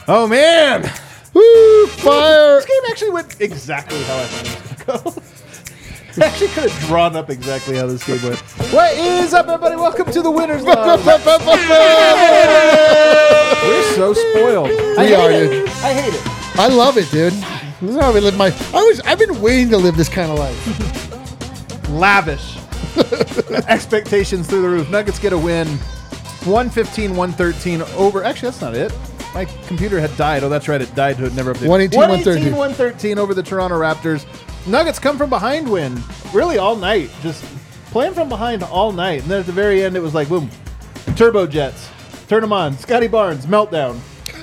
Oh, man. Woo, fire. This game actually went exactly how I thought it was going to go. I actually could have drawn up exactly how this game went. What is up, everybody? Welcome to the Winners Lounge. We're so spoiled. We are, dude. I hate it. I love it, dude. This is how we live my... I've been waiting to live this kind of life. Lavish. Expectations through the roof. Nuggets get a win. 115-113 over... Actually, that's not it. My computer had died. Oh, that's right. It died. It never updated. 118-113 over the Toronto Raptors. Nuggets come from behind win. Really all night. Just playing from behind all night. And then at the very end, it was like, boom. Turbo Jets. Turn them on. Scotty Barnes. Meltdown.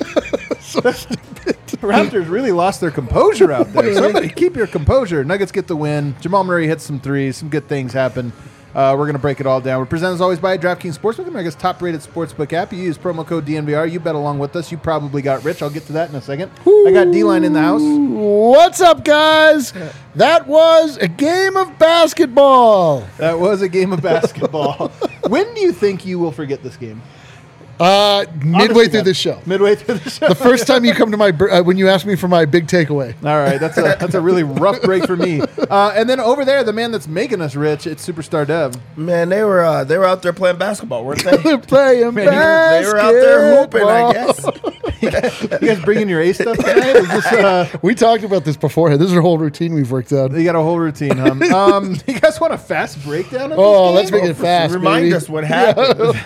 The Raptors really lost their composure out there. Somebody keep your composure. Nuggets get the win. Jamal Murray hits some threes. Some good things happen. We're going to break it all down. We're presented as always by DraftKings Sportsbook, America's top-rated sportsbook app. You use promo code DNVR. You bet along with us. You probably got rich. I'll get to that in a second. I got D-Line in the house. What's up, guys? That was a game of basketball. That was a game of basketball. When do you think you will forget this game? Midway through this show. Midway through the show. The first time you come to my when you ask me for my big takeaway. All right, that's a really rough break for me. And then over there, the man that's making us rich, it's Superstar Dev. Man, they were out there playing basketball, weren't they? They're playing basketball. They were out there hooping, I guess. You guys bringing your A stuff tonight? Is this, we talked about this beforehand. This is our whole routine we've worked out. You got a whole routine, huh? You guys want a fast breakdown of this game? Let's make it fast. Remind us what happened.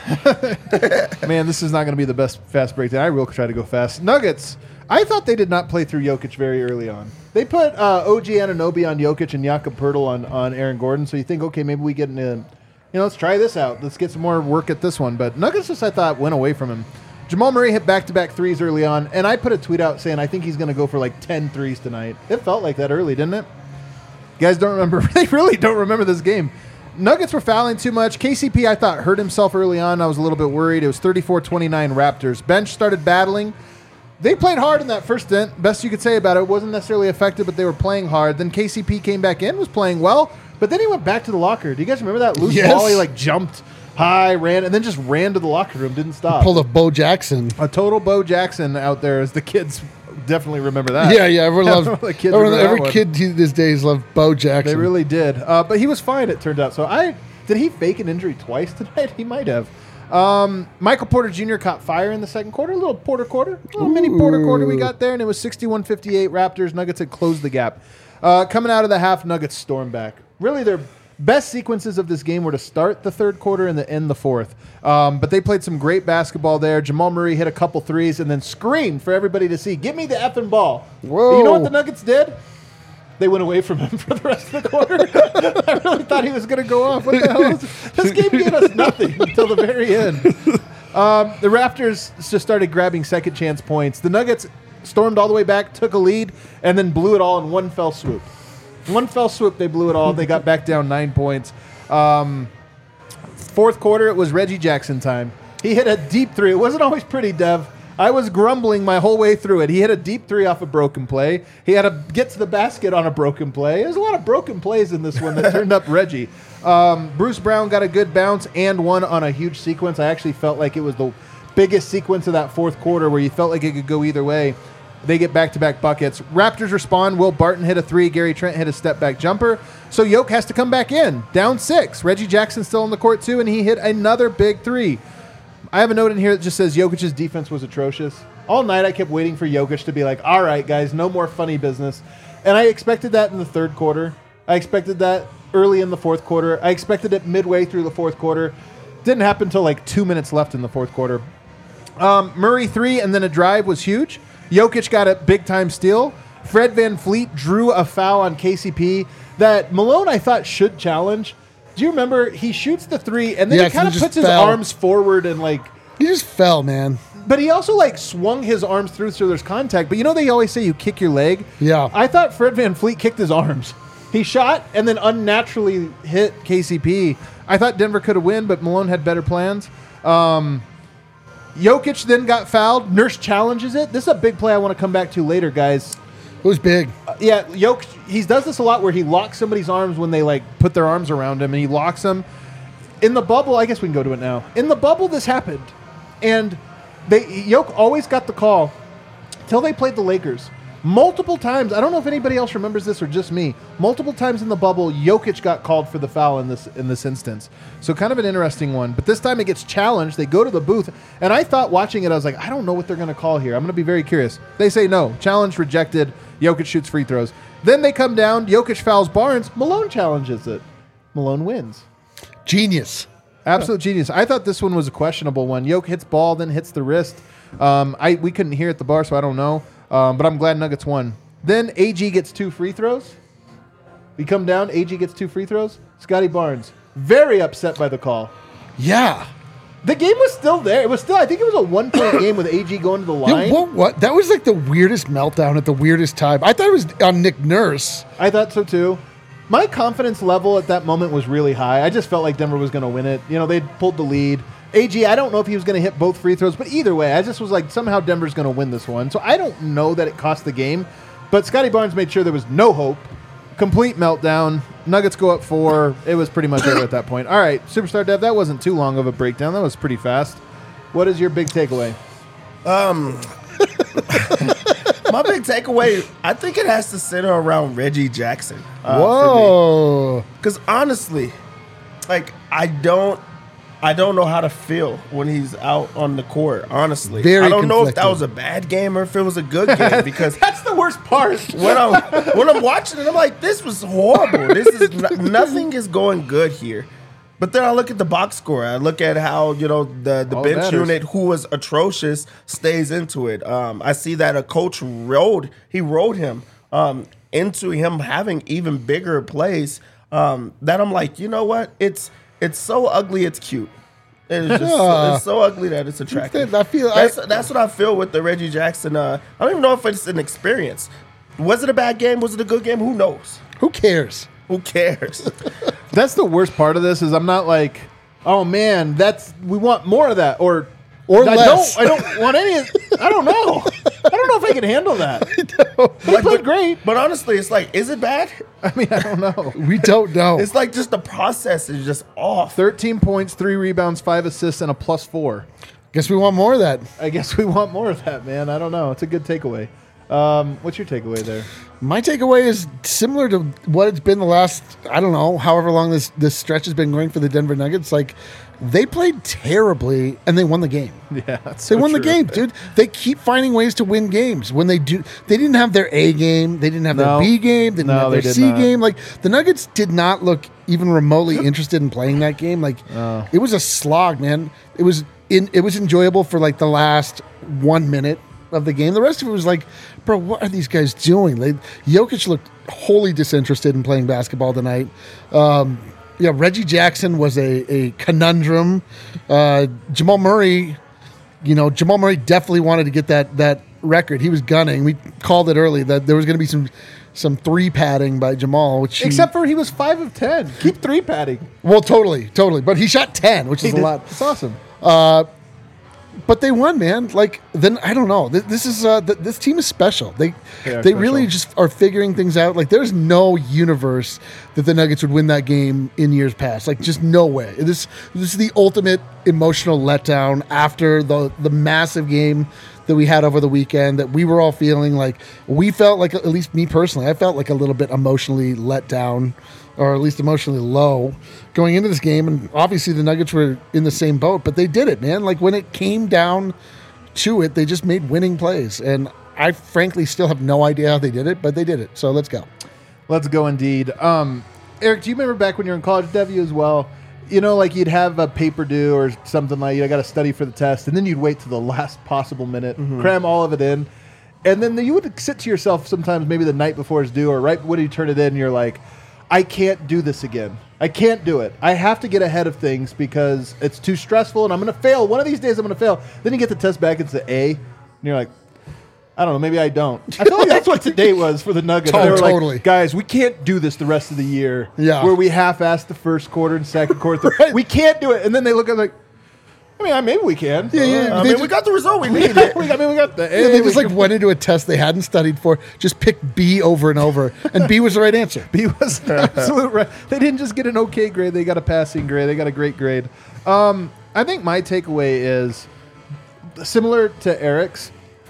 Man, this is not going to be the best fast breakdown. I will try to go fast. Nuggets, I thought they did not play through Jokic very early on. They put OG Anunoby on Jokic and Jakob Poeltl on Aaron Gordon, so you think, okay, maybe we get into, let's try this out. Let's get some more work at this one. But Nuggets just, I thought, went away from him. Jamal Murray hit back-to-back threes early on, and I put a tweet out saying I think he's going to go for like 10 threes tonight. It felt like that early, didn't it? You guys don't remember. They really don't remember this game. Nuggets were fouling too much. KCP, I thought, hurt himself early on. I was a little bit worried. It was 34-29 Raptors. Bench started battling. They played hard in that first stint. Best you could say about it. It wasn't necessarily effective, but they were playing hard. Then KCP came back in, was playing well, but then he went back to the locker. Do you guys remember that? Loose ball, he jumped high, ran, and then just ran to the locker room, didn't stop. Pulled a Bo Jackson. A total Bo Jackson out there, as the kids definitely remember that. Yeah, everyone loves every kid these days loved Bo Jackson. They really did. But he was fine, it turned out. So did he fake an injury twice tonight? He might have. Michael Porter Jr. caught fire in the second quarter. A little Porter quarter. A little mini Porter quarter we got there, and it was 61-58 Raptors. Nuggets had closed the gap. Coming out of the half, Nuggets stormed back. Really, their best sequences of this game were to start the third quarter and to end the fourth. But they played some great basketball there. Jamal Murray hit a couple threes and then screamed for everybody to see, "Give me the effing ball." Whoa. But you know what the Nuggets did? They went away from him for the rest of the quarter. I really thought he was going to go off. What the hell is this game gave us nothing until the very end. The Raptors just started grabbing second chance points. The Nuggets stormed all the way back, took a lead, and then blew it all in one fell swoop. One fell swoop, they blew it all. They got back down 9 points. Fourth quarter, it was Reggie Jackson time. He hit a deep three. It wasn't always pretty, Dev. I was grumbling my whole way through it. He hit a deep three off a broken play. He had to get to the basket on a broken play. There's a lot of broken plays in this one that turned up Reggie. Bruce Brown got a good bounce and one on a huge sequence. I actually felt like it was the biggest sequence of that fourth quarter where you felt like it could go either way. They get back-to-back buckets. Raptors respond. Will Barton hit a three. Gary Trent hit a step-back jumper. So Yoke has to come back in. Down 6. Reggie Jackson still on the court, too, and he hit another big three. I have a note in here that just says Jokic's defense was atrocious. All night I kept waiting for Jokic to be like, all right, guys, no more funny business. And I expected that in the third quarter. I expected that early in the fourth quarter. I expected it midway through the fourth quarter. Didn't happen until like 2 minutes left in the fourth quarter. Murray 3 and then a drive was huge. Jokic got a big-time steal. Fred VanVleet drew a foul on KCP that Malone, I thought, should challenge. Do you remember? He shoots the three, and then he kind of puts his arms forward and, He just fell, man. But he also, swung his arms through so there's contact. But you know they always say you kick your leg? Yeah. I thought Fred VanVleet kicked his arms. He shot and then unnaturally hit KCP. I thought Denver could have won, but Malone had better plans. Jokic then got fouled. Nurse challenges it. This is a big play I want to come back to later, guys. It was big. Jokic, he does this a lot where he locks somebody's arms when they put their arms around him, and he locks them. In the bubble, I guess we can go to it now. In the bubble, this happened, and Jokic always got the call till they played the Lakers. Multiple times, I don't know if anybody else remembers this or just me. Multiple times in the bubble, Jokic got called for the foul in this instance. So kind of an interesting one. But this time it gets challenged. They go to the booth, and I thought watching it, I was like, I don't know what they're going to call here. I'm going to be very curious. They say no. Challenge rejected. Jokic shoots free throws. Then they come down. Jokic fouls Barnes. Malone challenges it. Malone wins. Genius. Absolute genius. I thought this one was a questionable one. Jokic hits ball, then hits the wrist. We couldn't hear at the bar, so I don't know. But I'm glad Nuggets won. Then AG gets 2 free throws. We come down. AG gets 2 free throws. Scotty Barnes, very upset by the call. Yeah. The game was still there. It was still, I think it was a 1-point game with AG going to the line. What? That was like the weirdest meltdown at the weirdest time. I thought it was on Nick Nurse. I thought so too. My confidence level at that moment was really high. I just felt like Denver was going to win it. You know, they'd pulled the lead. AG, I don't know if he was going to hit both free throws, but either way, I just was like, somehow Denver's going to win this one. So I don't know that it cost the game, but Scotty Barnes made sure there was no hope. Complete meltdown. Nuggets go up 4. It was pretty much over at that point. All right, Superstar Dev, that wasn't too long of a breakdown. That was pretty fast. What is your big takeaway? My big takeaway, I think it has to center around Reggie Jackson. Whoa. Because honestly, like, I don't know how to feel when he's out on the court, honestly. I don't know if that was a bad game or if it was a good game, because that's the worst part. When I'm watching it, I'm like, this was horrible. This is nothing is going good here. But then I look at the box score. I look at how, the bench unit, who was atrocious, stays into it. I see that a coach rode him into him having even bigger plays. That I'm like, you know what? It's so ugly, it's cute. It's just it's so ugly that it's attractive. That's what I feel with the Reggie Jackson. I don't even know if it's an experience. Was it a bad game? Was it a good game? Who knows? Who cares? Who cares? That's the worst part of this is I'm not like, oh man, we want more of that or less. I don't want any. I don't know. I don't know if I can handle that. They played great, but honestly, it's like, is it bad? I mean, I don't know. We don't know. It's like just the process is just off. 13 points, 3 rebounds, 5 assists, and a +4. Guess we want more of that. I guess we want more of that, man. I don't know. It's a good takeaway. What's your takeaway there? My takeaway is similar to what it's been the last, I don't know, however long this stretch has been going for the Denver Nuggets. Like, they played terribly and they won the game. Yeah, they won the game, dude. They keep finding ways to win games. When they didn't have their A game, they didn't have their B game, they didn't have their C game. Like, the Nuggets did not look even remotely interested in playing that game. Like, it was a slog, man. It was enjoyable for like the last 1 minute of the game. The rest of it was like, bro, what are these guys doing? Jokic looked wholly disinterested in playing basketball tonight. Reggie Jackson was a conundrum. Jamal Murray definitely wanted to get that record. He was gunning. We called it early that there was going to be some 3 padding by Jamal, except for he was 5 of 10. Keep 3 padding. Well, totally. But he shot 10, which is a lot. It's awesome. But they won, man. Like, then I don't know. This team is special. They really just are figuring things out. Like, there's no universe that the Nuggets would win that game in years past. Like, just no way. This is the ultimate emotional letdown after the massive game that we had over the weekend that we were all feeling like. We felt like, at least me personally, I felt like a little bit emotionally let down, or at least emotionally low going into this game. And obviously the Nuggets were in the same boat, but they did it, man. Like, when it came down to it, they just made winning plays. And I frankly still have no idea how they did it, but they did it. So let's go. Let's go indeed. Eric, do you remember back when you were in college, Dev, you as well? Like you'd have a paper due or something like, I got to study for the test, and then you'd wait to the last possible minute, cram all of it in. And then you would sit to yourself sometimes, maybe the night before it's due or right when you turn it in, and you're like, I can't do this again. I can't do it. I have to get ahead of things because it's too stressful and I'm going to fail. One of these days I'm going to fail. Then you get the test back, it's the A, and you're like, I don't know, maybe I don't. I feel like that's what today was for the Nuggets. They were totally. Like, guys, we can't do this the rest of the year. Yeah. Where we half-assed the first quarter and second quarter. Right. We can't do it. And then they look at it like, I mean, maybe we can. Yeah. We got the result we needed. we got the A. Yeah, they just went into a test they hadn't studied for, just picked B over and over, and B was the right answer. B was the absolute right. They didn't just get an okay grade. They got a passing grade. They got a great grade. I think my takeaway is similar to Eric's.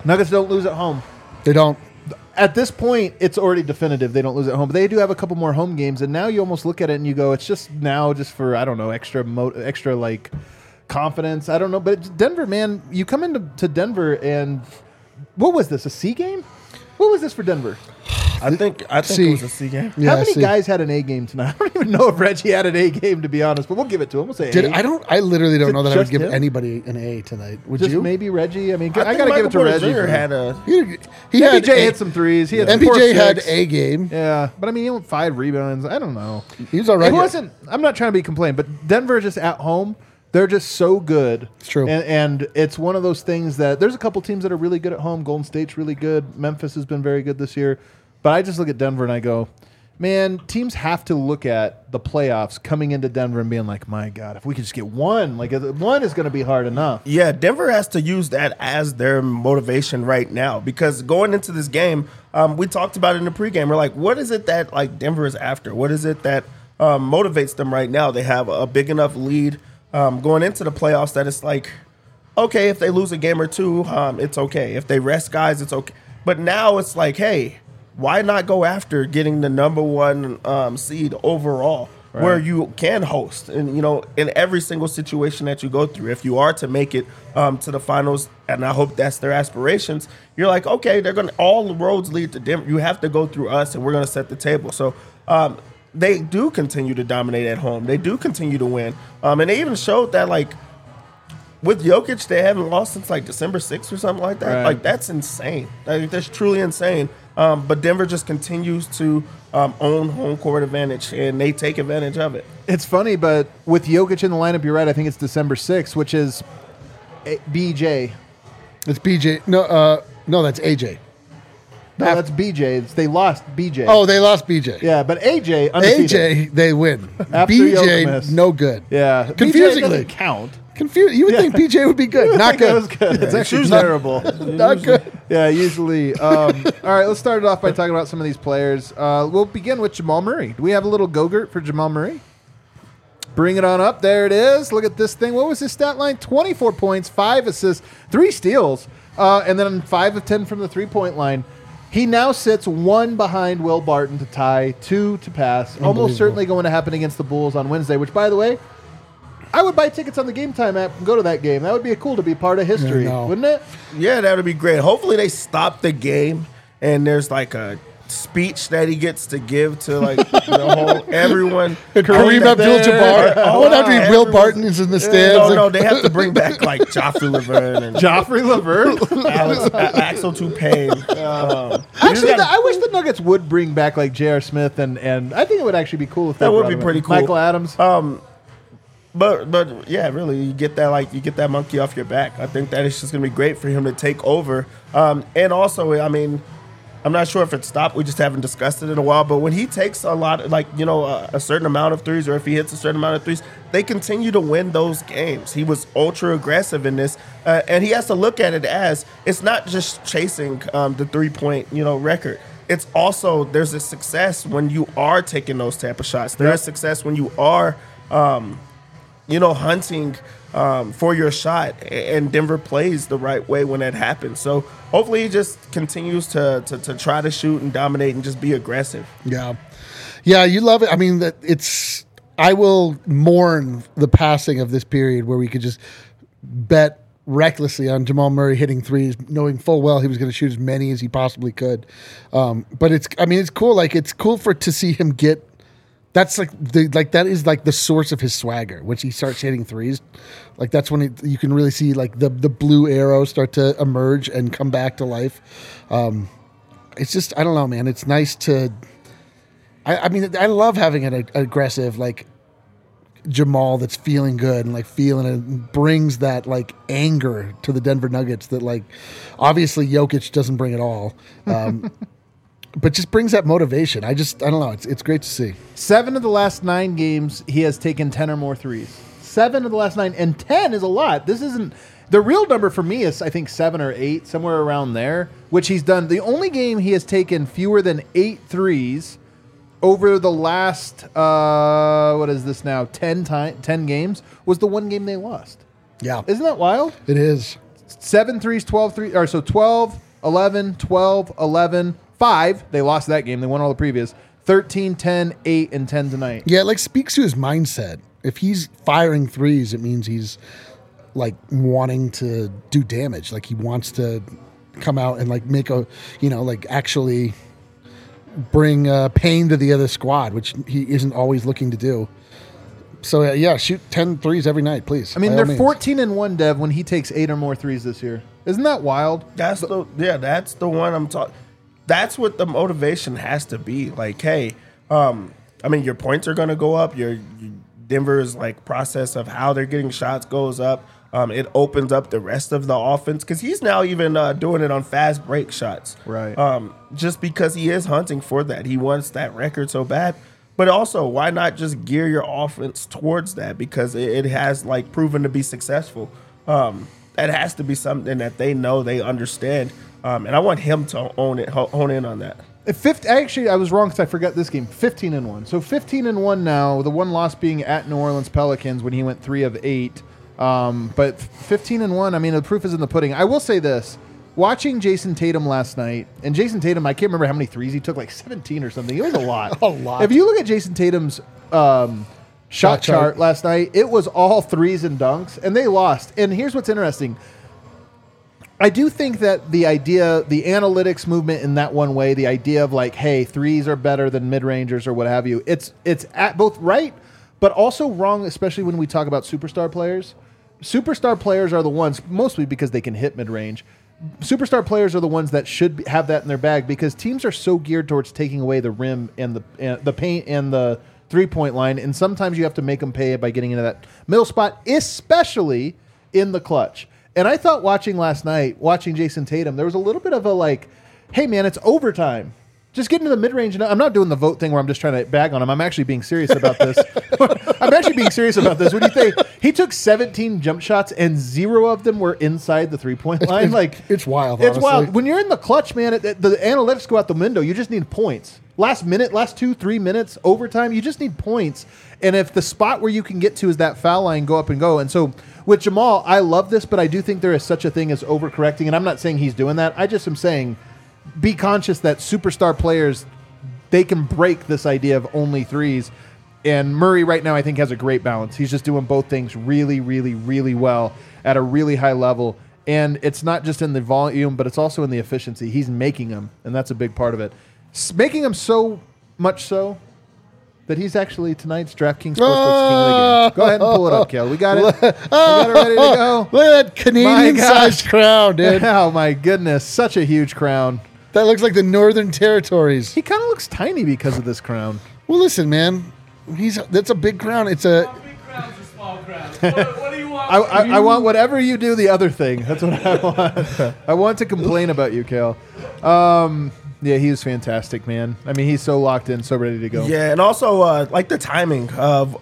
Nuggets don't lose at home. They don't. At this point, it's already definitive they don't lose at home. But they do have a couple more home games, and now you almost look at it and you go, it's just for, I don't know, extra like confidence. I don't know. But it's Denver, man, you come into Denver and what was this, a C game? What was this for Denver? I think it was a C game. Yeah, How many guys had an A game tonight? I don't even know if Reggie had an A game, to be honest, but we'll give it to him. We'll say A. I literally don't know that I would give anybody an A tonight. Would just you? Maybe Reggie. I mean, I got to give it to Reggie. He MPJ hit some threes. He had MPJ had A game. Yeah, but I mean, he had 5 rebounds. I don't know. He was all right. It wasn't. I'm not trying to be complaining, but Denver just at home. They're just so good. It's true. And it's one of those things that there's a couple teams that are really good at home. Golden State's really good. Memphis has been very good this year. But I just look at Denver and I go, man, teams have to look at the playoffs coming into Denver and being like, my God, if we could just get one, like one is going to be hard enough. Yeah, Denver has to use that as their motivation right now because going into this game, we talked about it in the pregame. We're like, what is it that like Denver is after? What is it that motivates them right now? They have a big enough lead going into the playoffs that it's like, okay, if they lose a game or two, it's okay. If they rest guys, it's okay. But now it's like, hey, why not go after getting the number 1 seed overall, right, where you can host? And, in every single situation that you go through, if you are to make it to the finals, and I hope that's their aspirations, you're like, okay, all the roads lead to Denver. You have to go through us, and we're going to set the table. So they do continue to dominate at home. They do continue to win. And they even showed that, like, with Jokic, they haven't lost since, like, December 6th or something like that. Right. Like, that's insane. Like, that's truly insane. But Denver just continues to own home court advantage, and they take advantage of it. It's funny, but with Jokic in the lineup, you're right. I think it's December 6th, which is BJ. It's BJ. No, that's AJ. No, that's BJ. They lost BJ. Oh, they lost BJ. Yeah, but AJ, undefeated. AJ, they win. After BJ, no good. Yeah. Confusingly. BJ doesn't count. You would think PJ would be good. Not good. It was good. It's actually terrible. Not good. Yeah, usually. All right, let's start it off by talking about some of these players. We'll begin with Jamal Murray. Do we have a little Go-Gurt for Jamal Murray? Bring it on up. There it is. Look at this thing. What was his stat line? 24 points, 5 assists, 3 steals, and then 5 of 10 from the three-point line. He now sits 1 behind Will Barton to tie, 2 to pass. Almost certainly going to happen against the Bulls on Wednesday, which, by the way, I would buy tickets on the Game Time app and go to that game. That would be cool to be part of history, wouldn't it? Yeah, that would be great. Hopefully they stop the game and there's like a speech that he gets to give to like the whole everyone. Kareem Abdul-Jabbar. What after Will Barton is in the stands? No, they have to bring back like Joffrey Laverne and Joffrey Laverne, Axel Toupane. Actually, I wish the Nuggets would bring back like J.R. Smith and I think it would actually be cool if they that would be pretty cool. Michael Adams. But yeah, really, you get that monkey off your back. I think that it's just gonna be great for him to take over. And also, I mean, I'm not sure if it stopped. We just haven't discussed it in a while. But when he takes a lot, a certain amount of threes, or if he hits a certain amount of threes, they continue to win those games. He was ultra aggressive in this, and he has to look at it as it's not just chasing the 3-point record. It's also there's a success when you are taking those type of shots. There is success when you are. Hunting for your shot, and Denver plays the right way when that happens. So hopefully he just continues to try to shoot and dominate and just be aggressive. Yeah, you love it. I mean, I will mourn the passing of this period where we could just bet recklessly on Jamal Murray hitting threes, knowing full well he was going to shoot as many as he possibly could. But it's cool. Like it's cool to see him get. That's that is the source of his swagger. When he starts hitting threes, like that's when you can really see like the blue arrow start to emerge and come back to life. It's just I don't know, man. It's nice to. I mean, I love having an aggressive like Jamal that's feeling good and like feeling it brings that like anger to the Denver Nuggets that like obviously Jokic doesn't bring at all. But just brings that motivation. I don't know. It's great to see. 7 of the last 9 games, he has taken 10 or more threes. 7 of the last 9, and 10 is a lot. This isn't the real number for me. Is I think 7 or 8, somewhere around there, which he's done. The only game he has taken fewer than 8 threes over the last what is this now 10 games was the one game they lost. Yeah, isn't that wild? It is. 7 threes, 12 threes, or so 12, 11, 12, 11, 5. They lost that game. They won all the previous. 13, 10, 8, and 10 tonight. Yeah, it like speaks to his mindset. If he's firing threes, it means he's like wanting to do damage. Like he wants to come out and like make a, like actually bring pain to the other squad, which he isn't always looking to do. So yeah, shoot 10 threes every night, please. I mean, they're 14-1, Dev, when he takes 8 or more threes this year. Isn't that wild? That's the one I'm talking. That's what the motivation has to be. Like, hey, I mean, your points are going to go up. Your Denver's like process of how they're getting shots goes up. It opens up the rest of the offense because he's now even doing it on fast break shots. Right. Just because he is hunting for that. He wants that record so bad. But also, why not just gear your offense towards that? Because it has like proven to be successful. That has to be something that they know, they understand. And I want him to hone in on that. Actually, I was wrong because I forgot this game. 15-1. So 15-1 now. The one loss being at New Orleans Pelicans when he went 3 of 8. But 15-1. I mean, the proof is in the pudding. I will say this: watching Jason Tatum last night, and Jason Tatum, I can't remember how many threes he took, like 17 or something. It was a lot. A lot. If you look at Jason Tatum's shot chart last night, it was all threes and dunks, and they lost. And here's what's interesting. I do think that the idea, the analytics movement in that one way, the idea of like, hey, threes are better than mid-rangers or what have you, it's at both right, but also wrong, especially when we talk about superstar players. Superstar players are the ones, mostly because they can hit mid-range. Superstar players are the ones that should have that in their bag because teams are so geared towards taking away the rim and the paint and the three-point line, and sometimes you have to make them pay by getting into that middle spot, especially in the clutch. And I thought watching Jason Tatum, there was a little bit of a like, hey, man, it's overtime. Just get into the mid-range. I'm not doing the vote thing where I'm just trying to bag on him. I'm actually being serious about this. I'm actually being serious about this. What do you think? He took 17 jump shots, and 0 of them were inside the three-point line. It's wild, It's honestly. wild. When you're in the clutch, man, the analytics go out the window. You just need points. Last 2-3 minutes, overtime, you just need points. And if the spot where you can get to is that foul line, go up and go. And so with Jamal, I love this, but I do think there is such a thing as overcorrecting. And I'm not saying he's doing that. I just am saying be conscious that superstar players, they can break this idea of only threes. And Murray right now, I think, has a great balance. He's just doing both things really, really, really well at a really high level. And it's not just in the volume, but it's also in the efficiency. He's making them, and that's a big part of it. Making them so much so that he's actually tonight's DraftKings Sportsbook's King of the Game. Go ahead and pull it up, Kel. We got it. We got it ready to go. Look at that Canadian-sized crown, dude. Oh, my goodness. Such a huge crown. That looks like the Northern Territories. He kind of looks tiny because of this crown. Well, listen, man. That's a big crown. It's a... Big crowns or small crowns? What do you want? I want whatever you do the other thing. That's what I want. I want to complain about you, Kale. Yeah, he was fantastic, man. I mean, he's so locked in, so ready to go. Yeah, and also like the timing of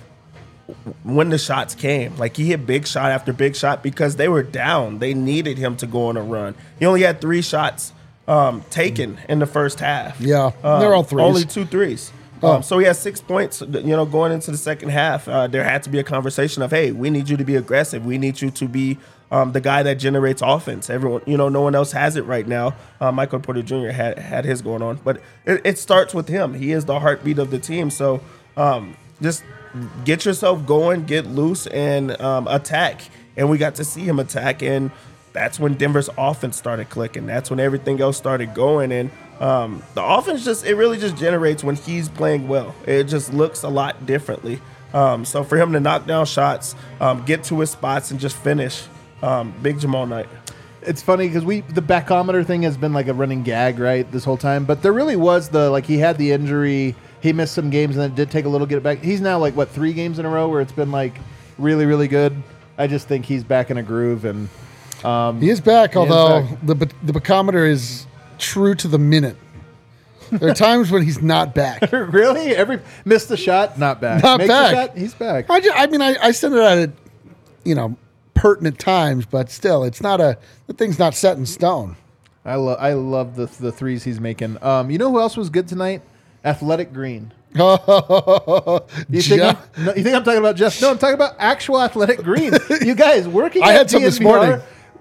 when the shots came. Like he hit big shot after big shot because they were down. They needed him to go on a run. He only had 3 shots taken in the first half. Yeah, they're all threes. Only 2 threes. So he has 6 points, going into the second half. There had to be a conversation of, hey, we need you to be aggressive. We need you to be the guy that generates offense. Everyone, no one else has it right now. Michael Porter Jr. had his going on. But it starts with him. He is the heartbeat of the team. So just get yourself going, get loose, and attack. And we got to see him attack, and that's when Denver's offense started clicking. That's when everything else started going. And the offense it really just generates when he's playing well. It just looks a lot differently. So for him to knock down shots, get to his spots, and just finish, big Jamal night. It's funny because the backometer thing has been like a running gag, right, this whole time. But there really was he had the injury. He missed some games, and then it did take a little to get it back. He's now 3 games in a row where it's been really, really good. I just think he's back in a groove, and he is back. Although the backometer is true to the minute. There are times when he's not back. Really? Missed the shot, not back. Not Makes back. The shot, he's back. I send it out at pertinent times, but still, the thing's not set in stone. I love the threes he's making. You know who else was good tonight? Athletic Green. You think I'm talking about Jeff? No, I'm talking about actual Athletic Green. You guys working. I at had some DNVR, this morning.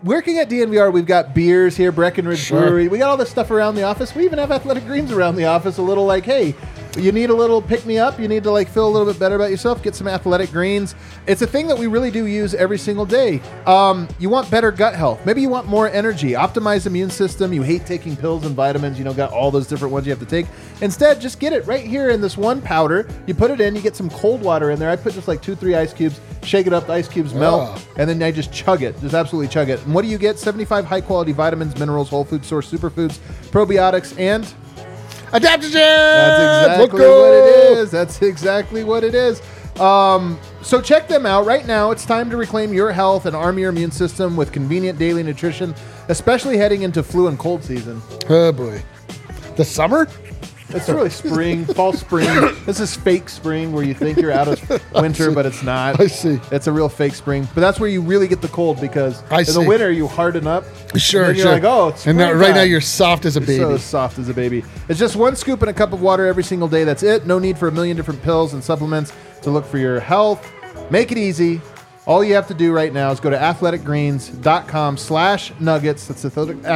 working at DNVR, we've got beers here, Breckenridge Brewery. We got all this stuff around the office. We even have Athletic Greens around the office. A little like, hey, you need a little pick-me-up. You need to like feel a little bit better about yourself. Get some Athletic Greens. It's a thing that we really do use every single day. You want better gut health. Maybe you want more energy. Optimize immune system. You hate taking pills and vitamins. You know, got all those different ones you have to take. Instead, just get it right here in this one powder. You put it in. You get some cold water in there. I put just like 2-3 ice cubes. Shake it up. The ice cubes melt. And then I just chug it. Just absolutely chug it. And what do you get? 75 high-quality vitamins, minerals, whole food source, superfoods, probiotics, and adaptogens. That's exactly what it is. That's exactly what it is. So check them out right now. It's time to reclaim your health and arm your immune system with convenient daily nutrition, especially heading into flu and cold season. Oh boy, the summer. It's really spring, fall, spring. This is fake spring where you think you're out of winter, but it's not. I see. It's a real fake spring. But that's where you really get the cold because in the winter you harden up. Sure, and you're like, oh, it's spring. And right now you're soft as a baby. So soft as a baby. It's just one scoop in a cup of water every single day. That's it. No need for a million different pills and supplements to look for your health. Make it easy. All you have to do right now is go to athleticgreens.com/nuggets. That's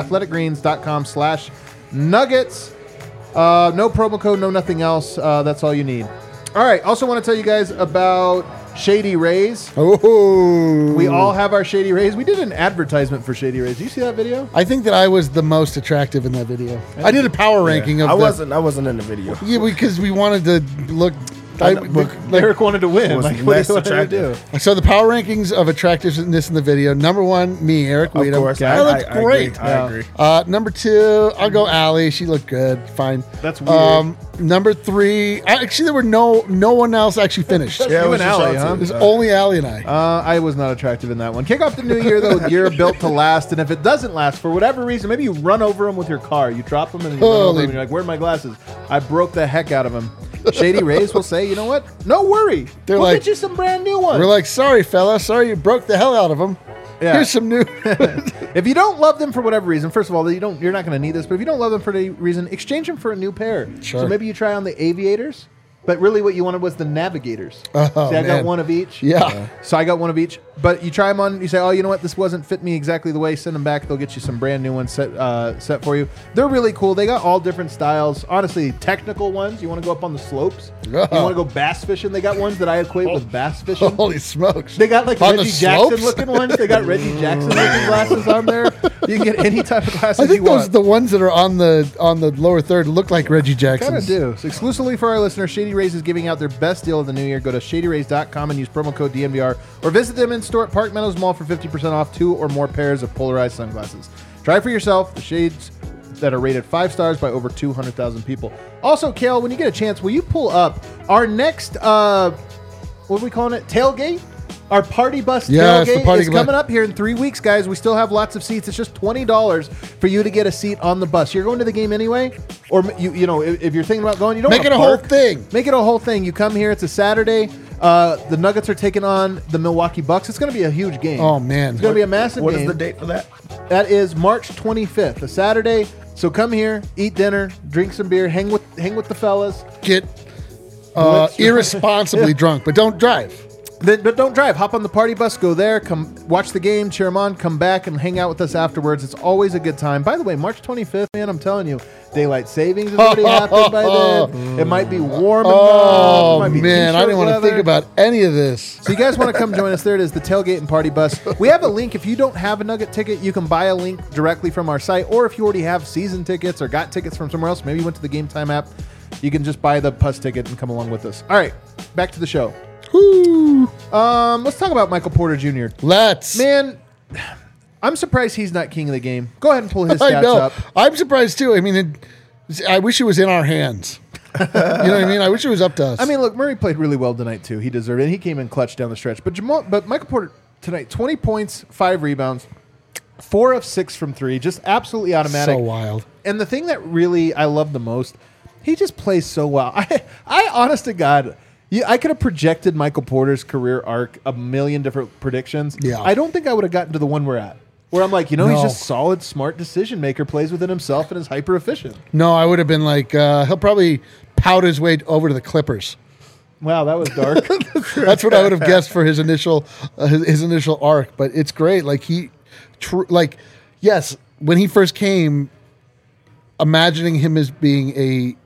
athleticgreens.com/nuggets. No promo code, no nothing else. That's all you need. All right. Also want to tell you guys about Shady Rays. Oh. We all have our Shady Rays. We did an advertisement for Shady Rays. Did you see that video? I think that I was the most attractive in that video. I did a power ranking of I wasn't in the video. Yeah, because we wanted to look... Eric wanted to win. Like, what do you want to do? So the power rankings of attractiveness in the video. Number 1, me, Eric Weedham. Of course. I looked great. I agree. Number 2, I'll go Allie. She looked good. Fine. That's weird. Number 3, actually there were no one else actually finished. Yeah, it was Allie, huh? It was only Allie and I. I was not attractive in that one. Kick off the new year, though, with gear built to last. And if it doesn't last, for whatever reason, maybe you run over them with your car. You drop them and you run over them and you're like, where are my glasses? I broke the heck out of them. Shady Rays will say, you know what? No worry. We'll get you some brand new ones. We're like, sorry, fella. Sorry you broke the hell out of them. Yeah. Here's some new. If you don't love them for whatever reason, first of all, you're not going to need this, but if you don't love them for any reason, exchange them for a new pair. Sure. So maybe you try on the Aviators, but really what you wanted was the Navigators. Oh, See, I got one of each. Yeah. So I got one of each. But you try them on, you say, oh, you know what? This wasn't fit me exactly the way. Send them back. They'll get you some brand new ones set for you. They're really cool. They got all different styles. Honestly, technical ones. You want to go up on the slopes? You want to go bass fishing? They got ones that I equate with bass fishing. Holy smokes. They got like on Reggie Jackson looking ones. They got Reggie Jackson looking glasses on there. You can get any type of glasses I think you want. The ones that are on the lower third look like Reggie Jackson. Kind of do. So exclusively for our listeners, Shady Rays is giving out their best deal of the new year. Go to shadyrays.com and use promo code DNVR or visit them in store at Park Meadows Mall for 50% off 2 or more pairs of polarized sunglasses. Try for yourself the shades that are rated 5 stars by over 200,000 people. Also, Kale, when you get a chance, will you pull up our next, what are we calling it? Tailgate? Our party bus tailgate is coming up here in 3 weeks, guys. We still have lots of seats. It's just $20 for you to get a seat on the bus. You're going to the game anyway, or you know, if you're thinking about going, you don't make it a whole thing. Make it a whole thing. You come here. It's a Saturday. The Nuggets are taking on the Milwaukee Bucks. It's going to be a huge game. Oh man, it's going to be a massive game. What is the date for that? That is March 25th, a Saturday. So come here, eat dinner, drink some beer, hang with the fellas. Get irresponsibly drunk, but don't drive. But don't drive. Hop on the party bus, go there, come watch the game, cheer them on, come back and hang out with us afterwards. It's always a good time. By the way, March 25th, man, I'm telling you, daylight savings has already happened by then. It might be warm enough. Oh, man, I didn't want to think about any of this. So you guys want to come join us? There it is, the tailgate and party bus. We have a link. If you don't have a Nugget ticket, you can buy a link directly from our site. Or if you already have season tickets or got tickets from somewhere else, maybe you went to the Game Time app, you can just buy the bus ticket and come along with us. All right, back to the show. Woo. Let's talk about Michael Porter Jr. Man, I'm surprised he's not king of the game. Go ahead and pull his stats up. I'm surprised too. I mean, I wish it was in our hands. You know what I mean? I wish it was up to us. I mean, look, Murray played really well tonight too. He deserved it. He came in clutch down the stretch. But Michael Porter tonight, 20 points, 5 rebounds, 4 of 6 from 3, just absolutely automatic. So wild. And the thing that really I love the most, he just plays so well. I honest to God. I could have projected Michael Porter's career arc a million different predictions. Yeah. I don't think I would have gotten to the one we're at, where I'm like, he's just solid, smart decision maker, plays within himself, and is hyper efficient. No, I would have been like, he'll probably pout his way over to the Clippers. Wow, that was dark. That's what I would have guessed for his initial arc. But it's great. Like like, yes, when he first came, imagining him as being a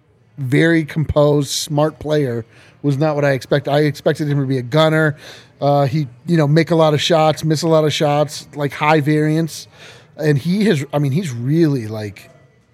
very composed, smart player was not what I expected. I expected him to be a gunner. He, make a lot of shots, miss a lot of shots, like high variance. And he's really like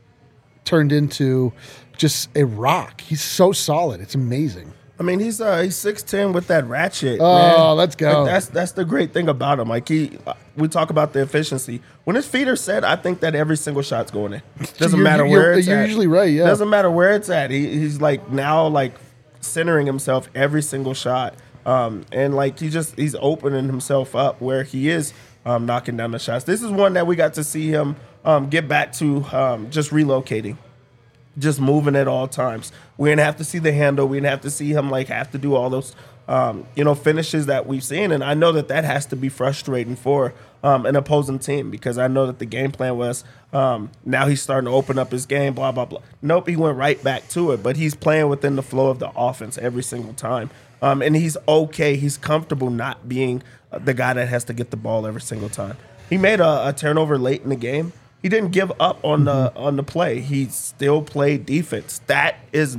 turned into just a rock. He's so solid. It's amazing. I mean, he's 6'10" with that ratchet. Oh, man. Let's go. Like, that's the great thing about him. Like we talk about the efficiency. When his feet are set, I think that every single shot's going in. Doesn't matter where it's at. You're usually right. Yeah. Doesn't matter where it's at. He's like now like centering himself every single shot. And like he's opening himself up where he is knocking down the shots. This is one that we got to see him get back to just relocating. Just moving at all times. We didn't have to see the handle. We didn't have to see him like have to do all those, finishes that we've seen. And I know that has to be frustrating for an opposing team because I know that the game plan was now he's starting to open up his game, blah, blah, blah. Nope, he went right back to it. But he's playing within the flow of the offense every single time. And he's okay. He's comfortable not being the guy that has to get the ball every single time. He made a turnover late in the game. He didn't give up on the play. He still played defense. That's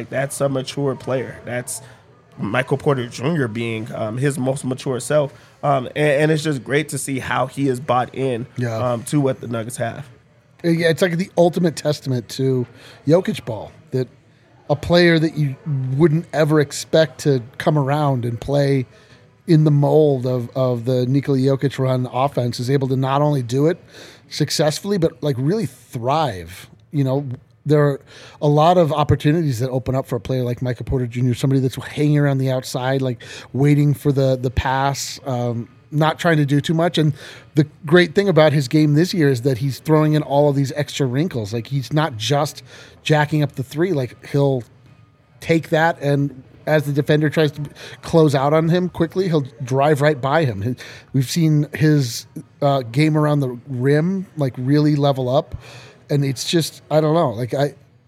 a mature player. That's Michael Porter Jr. being his most mature self. And it's just great to see how he is bought in to what the Nuggets have. Yeah, it's like the ultimate testament to Jokic ball, that a player that you wouldn't ever expect to come around and play in the mold of the Nikola Jokic run offense is able to not only do it successfully, but like really thrive. There are a lot of opportunities that open up for a player like Michael Porter Jr., somebody that's hanging around the outside, like waiting for the pass, not trying to do too much. And the great thing about his game this year is that he's throwing in all of these extra wrinkles. Like he's not just jacking up the three. Like he'll take that, and as the defender tries to close out on him quickly, he'll drive right by him. We've seen his game around the rim like really level up, and it's just, I don't know. Like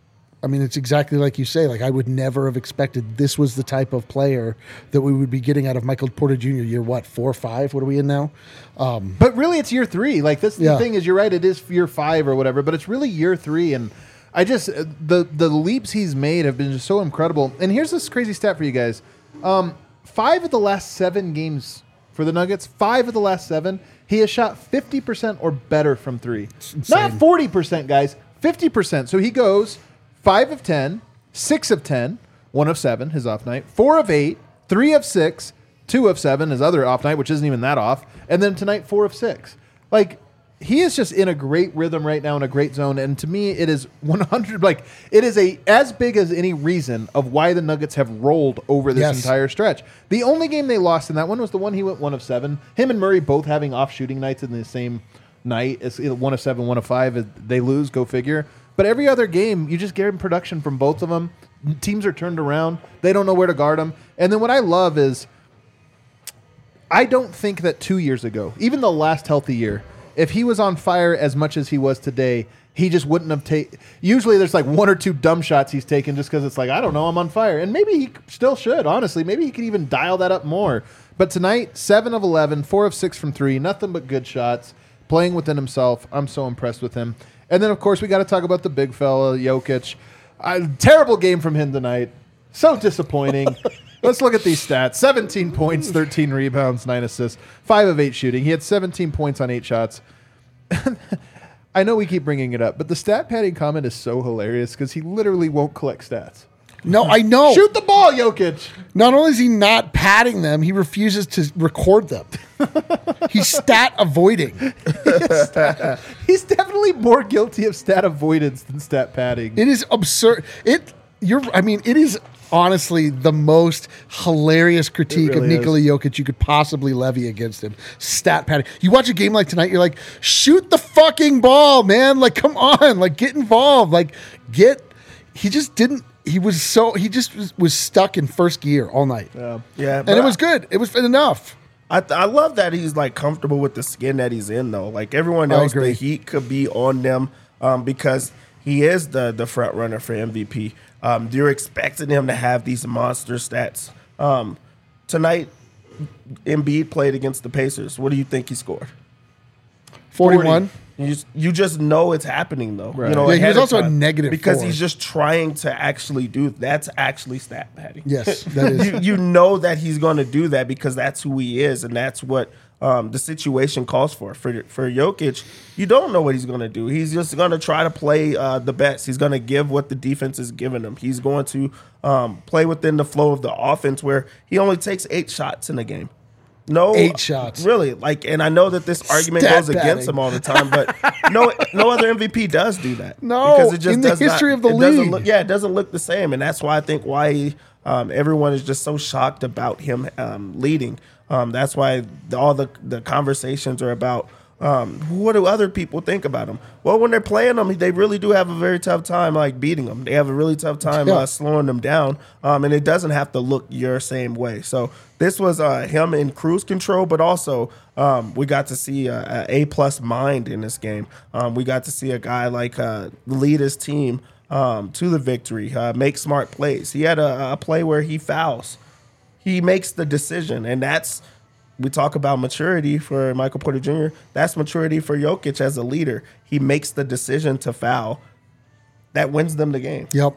I mean, it's exactly like you say. Like I would never have expected this was the type of player that we would be getting out of Michael Porter Jr. Year 4 or 5? What are we in now? But really, it's year 3. Like the thing is, you're right. It is year 5 or whatever, but it's really year 3, and I just the leaps he's made have been just so incredible. And here's this crazy stat for you guys: 5 of the last 7 games for the Nuggets, 5 of the last 7, he has shot 50% or better from 3. Not 40%, guys, 50%. So he goes 5 of 10, 6 of 10, 1 of 7, his off night, 4 of 8, 3 of 6, 2 of 7, his other off night, which isn't even that off, and then tonight 4 of 6. Like, he is just in a great rhythm right now, in a great zone, and to me, it is 100. Like, it is as big as any reason of why the Nuggets have rolled over this entire stretch. The only game they lost in that one was the one he went 1 of 7. Him and Murray both having off shooting nights in the same night. It's 1 of 7, 1 of 5. They lose, go figure. But every other game, you just get in production from both of them. Teams are turned around. They don't know where to guard them. And then what I love is, I don't think that 2 years ago, even the last healthy year, if he was on fire as much as he was today, he just wouldn't have taken. Usually there's like 1 or 2 dumb shots he's taken just because it's like, I don't know, I'm on fire. And maybe he still should, honestly. Maybe he could even dial that up more. But tonight, 7 of 11, 4 of 6 from 3, nothing but good shots, playing within himself. I'm so impressed with him. And then, of course, we got to talk about the big fella, Jokic. Terrible game from him tonight. So disappointing. Let's look at these stats. 17 points, 13 rebounds, 9 assists, 5 of 8 shooting. He had 17 points on 8 shots. I know we keep bringing it up, but the stat padding comment is so hilarious because he literally won't collect stats. No, I know. Shoot the ball, Jokic. Not only is he not padding them, he refuses to record them. He's stat avoiding. He's definitely more guilty of stat avoidance than stat padding. It is absurd. It is honestly the most hilarious critique really of Nikola Jokic you could possibly levy against him. Stat padding. You watch a game like tonight, you're like, shoot the fucking ball, man. Like, come on. Like, get involved. Like, he just didn't. He just was stuck in first gear all night. Yeah. And it was good. It was enough. I love that he's like comfortable with the skin that he's in, though. Like everyone else, the heat could be on them because he is the front runner for MVP. You're expecting him to have these monster stats. Tonight, Embiid played against the Pacers. What do you think he scored? 41. You just know it's happening though. Right. You know, Yeah, he ahead was of also a time. negative because 4. he's just trying to actually do. That's actually stat padding. Yes, that is. you know that he's going to do that because that's who he is, and that's what the situation calls for. For Jokic, you don't know what he's going to do. He's just going to try to play the best. He's going to give what the defense is giving him. He's going to play within the flow of the offense, where he only takes 8 shots in a game. No, 8 shots. Really, and I know that this argument Stat goes against padding. him all the time, but no other MVP does do that. No, because it just in the does history not, of the it doesn't league. look, it doesn't look the same, and that's why I think everyone is just so shocked about him leading. That's why all the conversations are about what do other people think about him. Well, when they're playing them, they really do have a very tough time beating them. They have a really tough time slowing them down, and it doesn't have to look your same way. So this was him in cruise control, but also we got to see a A+ mind in this game. We got to see a guy lead his team to the victory, make smart plays. He had a play where he fouls. He makes the decision, and we talk about maturity for Michael Porter Jr. That's maturity for Jokic as a leader. He makes the decision to foul. That wins them the game. Yep.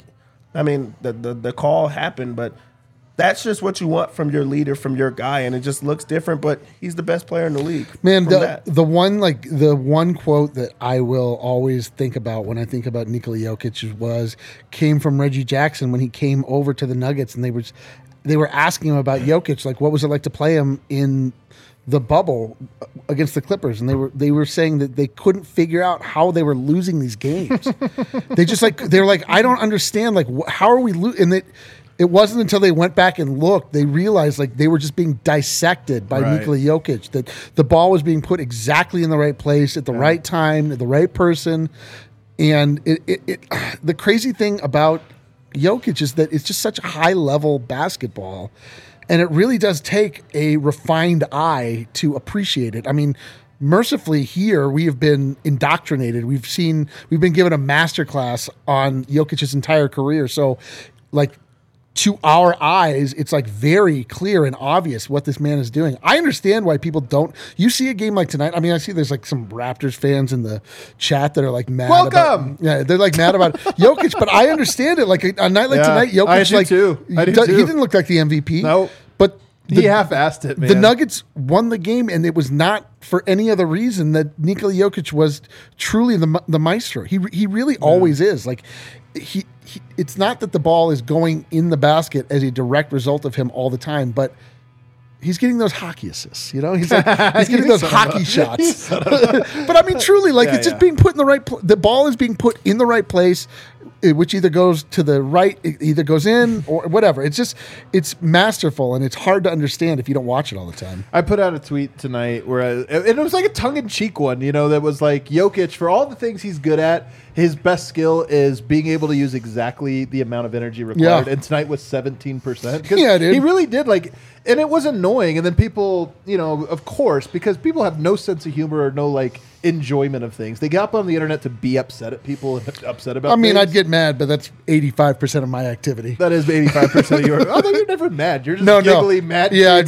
The call happened, but that's just what you want from your leader, from your guy, and it just looks different, but he's the best player in the league. Man, the one quote that I will always think about when I think about Nikola Jokic came from Reggie Jackson when he came over to the Nuggets, and they were asking him about Jokic, like what was it like to play him in the bubble against the Clippers, and they were saying that they couldn't figure out how they were losing these games. they were like, I don't understand, how are we losing? And it wasn't until they went back and looked, they realized they were just being dissected by Nikola Jokic, that the ball was being put exactly in the right place at the right time, at the right person. And the crazy thing about Jokic is that it's just such a high-level basketball, and it really does take a refined eye to appreciate it. I mean, mercifully here, we have been indoctrinated. We've been given a masterclass on Jokic's entire career. So, to our eyes, it's very clear and obvious what this man is doing. I understand why people don't. You see a game like tonight. I mean, I see there's some Raptors fans in the chat that are mad. Welcome. They're mad about Jokic, but I understand it. A night like tonight, Jokic I do too. He didn't look like the MVP. No, but he half-assed it, man. The Nuggets won the game, and it was not for any other reason that Nikola Jokic was truly the maestro. He really always is. It's not that the ball is going in the basket as a direct result of him all the time, but he's getting those hockey assists. He's getting those hockey shots. But I mean, truly, it's just being put in the right. The ball is being put in the right place, which either goes to the right, it either goes in or whatever. It's masterful, and it's hard to understand if you don't watch it all the time. I put out a tweet tonight and it was a tongue-in-cheek one, that was Jokic, for all the things he's good at, his best skill is being able to use exactly the amount of energy required. Yeah. And tonight was 17%. Yeah, dude. He really did and it was annoying. And then people, of course, because people have no sense of humor or no enjoyment of things. They get up on the internet to be upset at people and upset about things. I'd get mad, but that's 85% of my activity. That is 85% of your. Although you're never mad, you're just giggly, mad. Yeah,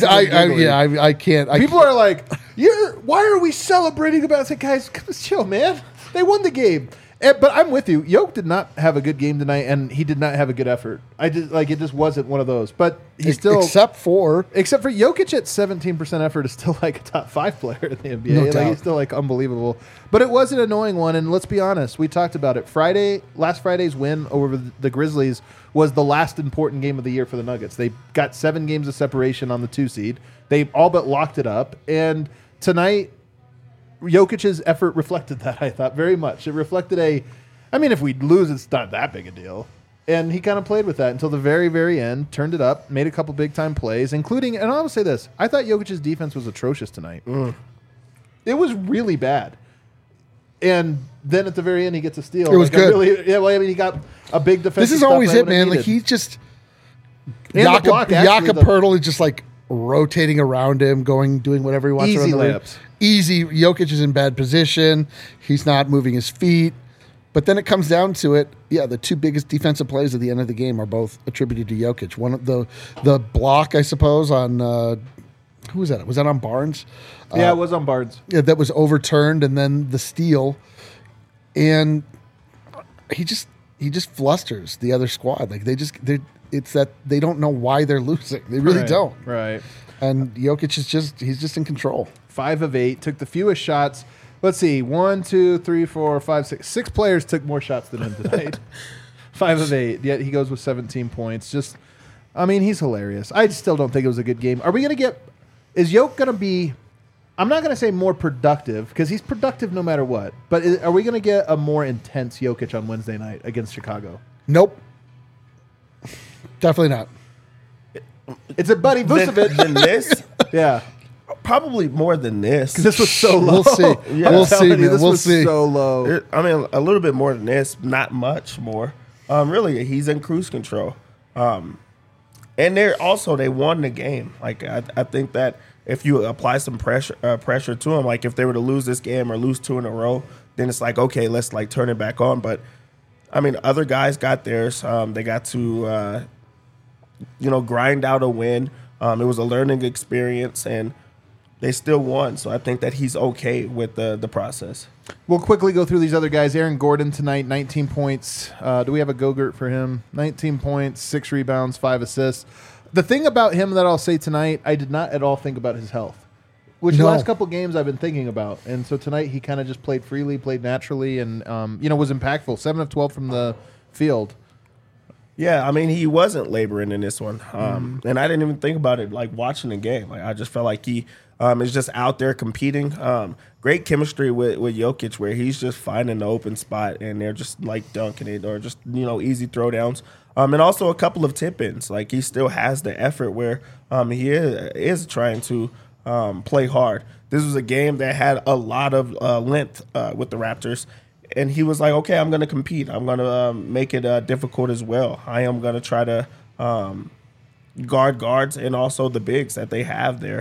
I can't. People are like, why are we celebrating about? It's guys, chill, man. They won the game. But I'm with you. Yoke did not have a good game tonight, and he did not have a good effort. It just wasn't one of those. But he's still, except for Jokic at 17% effort is still a top 5 player in the NBA. No doubt. He's still unbelievable. But it was an annoying one, and let's be honest, we talked about it. Last Friday's win over the Grizzlies was the last important game of the year for the Nuggets. They got 7 games of separation on the 2 seed. They all but locked it up, and tonight, Jokic's effort reflected that, I thought, very much. It reflected if we lose, it's not that big a deal. And he kind of played with that until the very, very end, turned it up, made a couple big-time plays, including, and I'll say this, I thought Jokic's defense was atrocious tonight. It was really bad. And then at the very end, he gets a steal. It was good. He got a big defensive. This is always it, man. He's just... Jakob Poeltl is just rotating around him, doing whatever he wants. Easy layups. Easy. Jokic is in bad position. He's not moving his feet. But then it comes down to it. Yeah, the 2 biggest defensive plays at the end of the game are both attributed to Jokic. One of the block, I suppose, on who was that? Was that on Barnes? Yeah, it was on Barnes. Yeah, that was overturned, and then the steal, and he just flusters the other squad. Like it's that they don't know why they're losing. They really don't. Right. And Jokic he's just in control. 5 of 8, took the fewest shots. Let's see, 1, 2, 3, 4, 5, 6. 6 players took more shots than him tonight. 5 of 8. Yet he goes with 17 points. He's hilarious. I still don't think it was a good game. Are we going to get? Is Jokic going to be? I'm not going to say more productive because he's productive no matter what. But are we going to get a more intense Jokic on Wednesday night against Chicago? Nope. Definitely not. It's a Buddy Vucevic. Than this? Yeah. Probably more than this. Because this was so low. We'll see. Yeah. We'll see, man. This We'll was see. so low. A little bit more than this, not much more. Really, he's in cruise control. And they won the game. Like I think that if you apply some pressure to them, like if they were to lose this game or lose 2 in a row, then it's like, okay, let's like turn it back on. But I mean, other guys got theirs. They got to grind out a win. It was a learning experience, and they still won. So I think that he's okay with the process. We'll quickly go through these other guys. Aaron Gordon tonight, 19 points. Do we have a Go-Gurt for him? 19 points, 6 rebounds, 5 assists. The thing about him that I'll say tonight, I did not at all think about his health, which the last couple games I've been thinking about. And so tonight he kind of just played freely, played naturally, and was impactful. 7 of 12 from the field. Yeah, I mean, he wasn't laboring in this one. And I didn't even think about it, like, watching the game. Like, I just felt like he is just out there competing. Great chemistry with Jokic, where he's just finding the open spot, and they're just, like, dunking it or just, easy throwdowns. And also a couple of tip-ins. Like, he still has the effort where he is trying to play hard. This was a game that had a lot of length with the Raptors. And he was like, okay, I'm going to compete. I'm going to make it difficult as well. I am going to try to guard guards and also the bigs that they have there.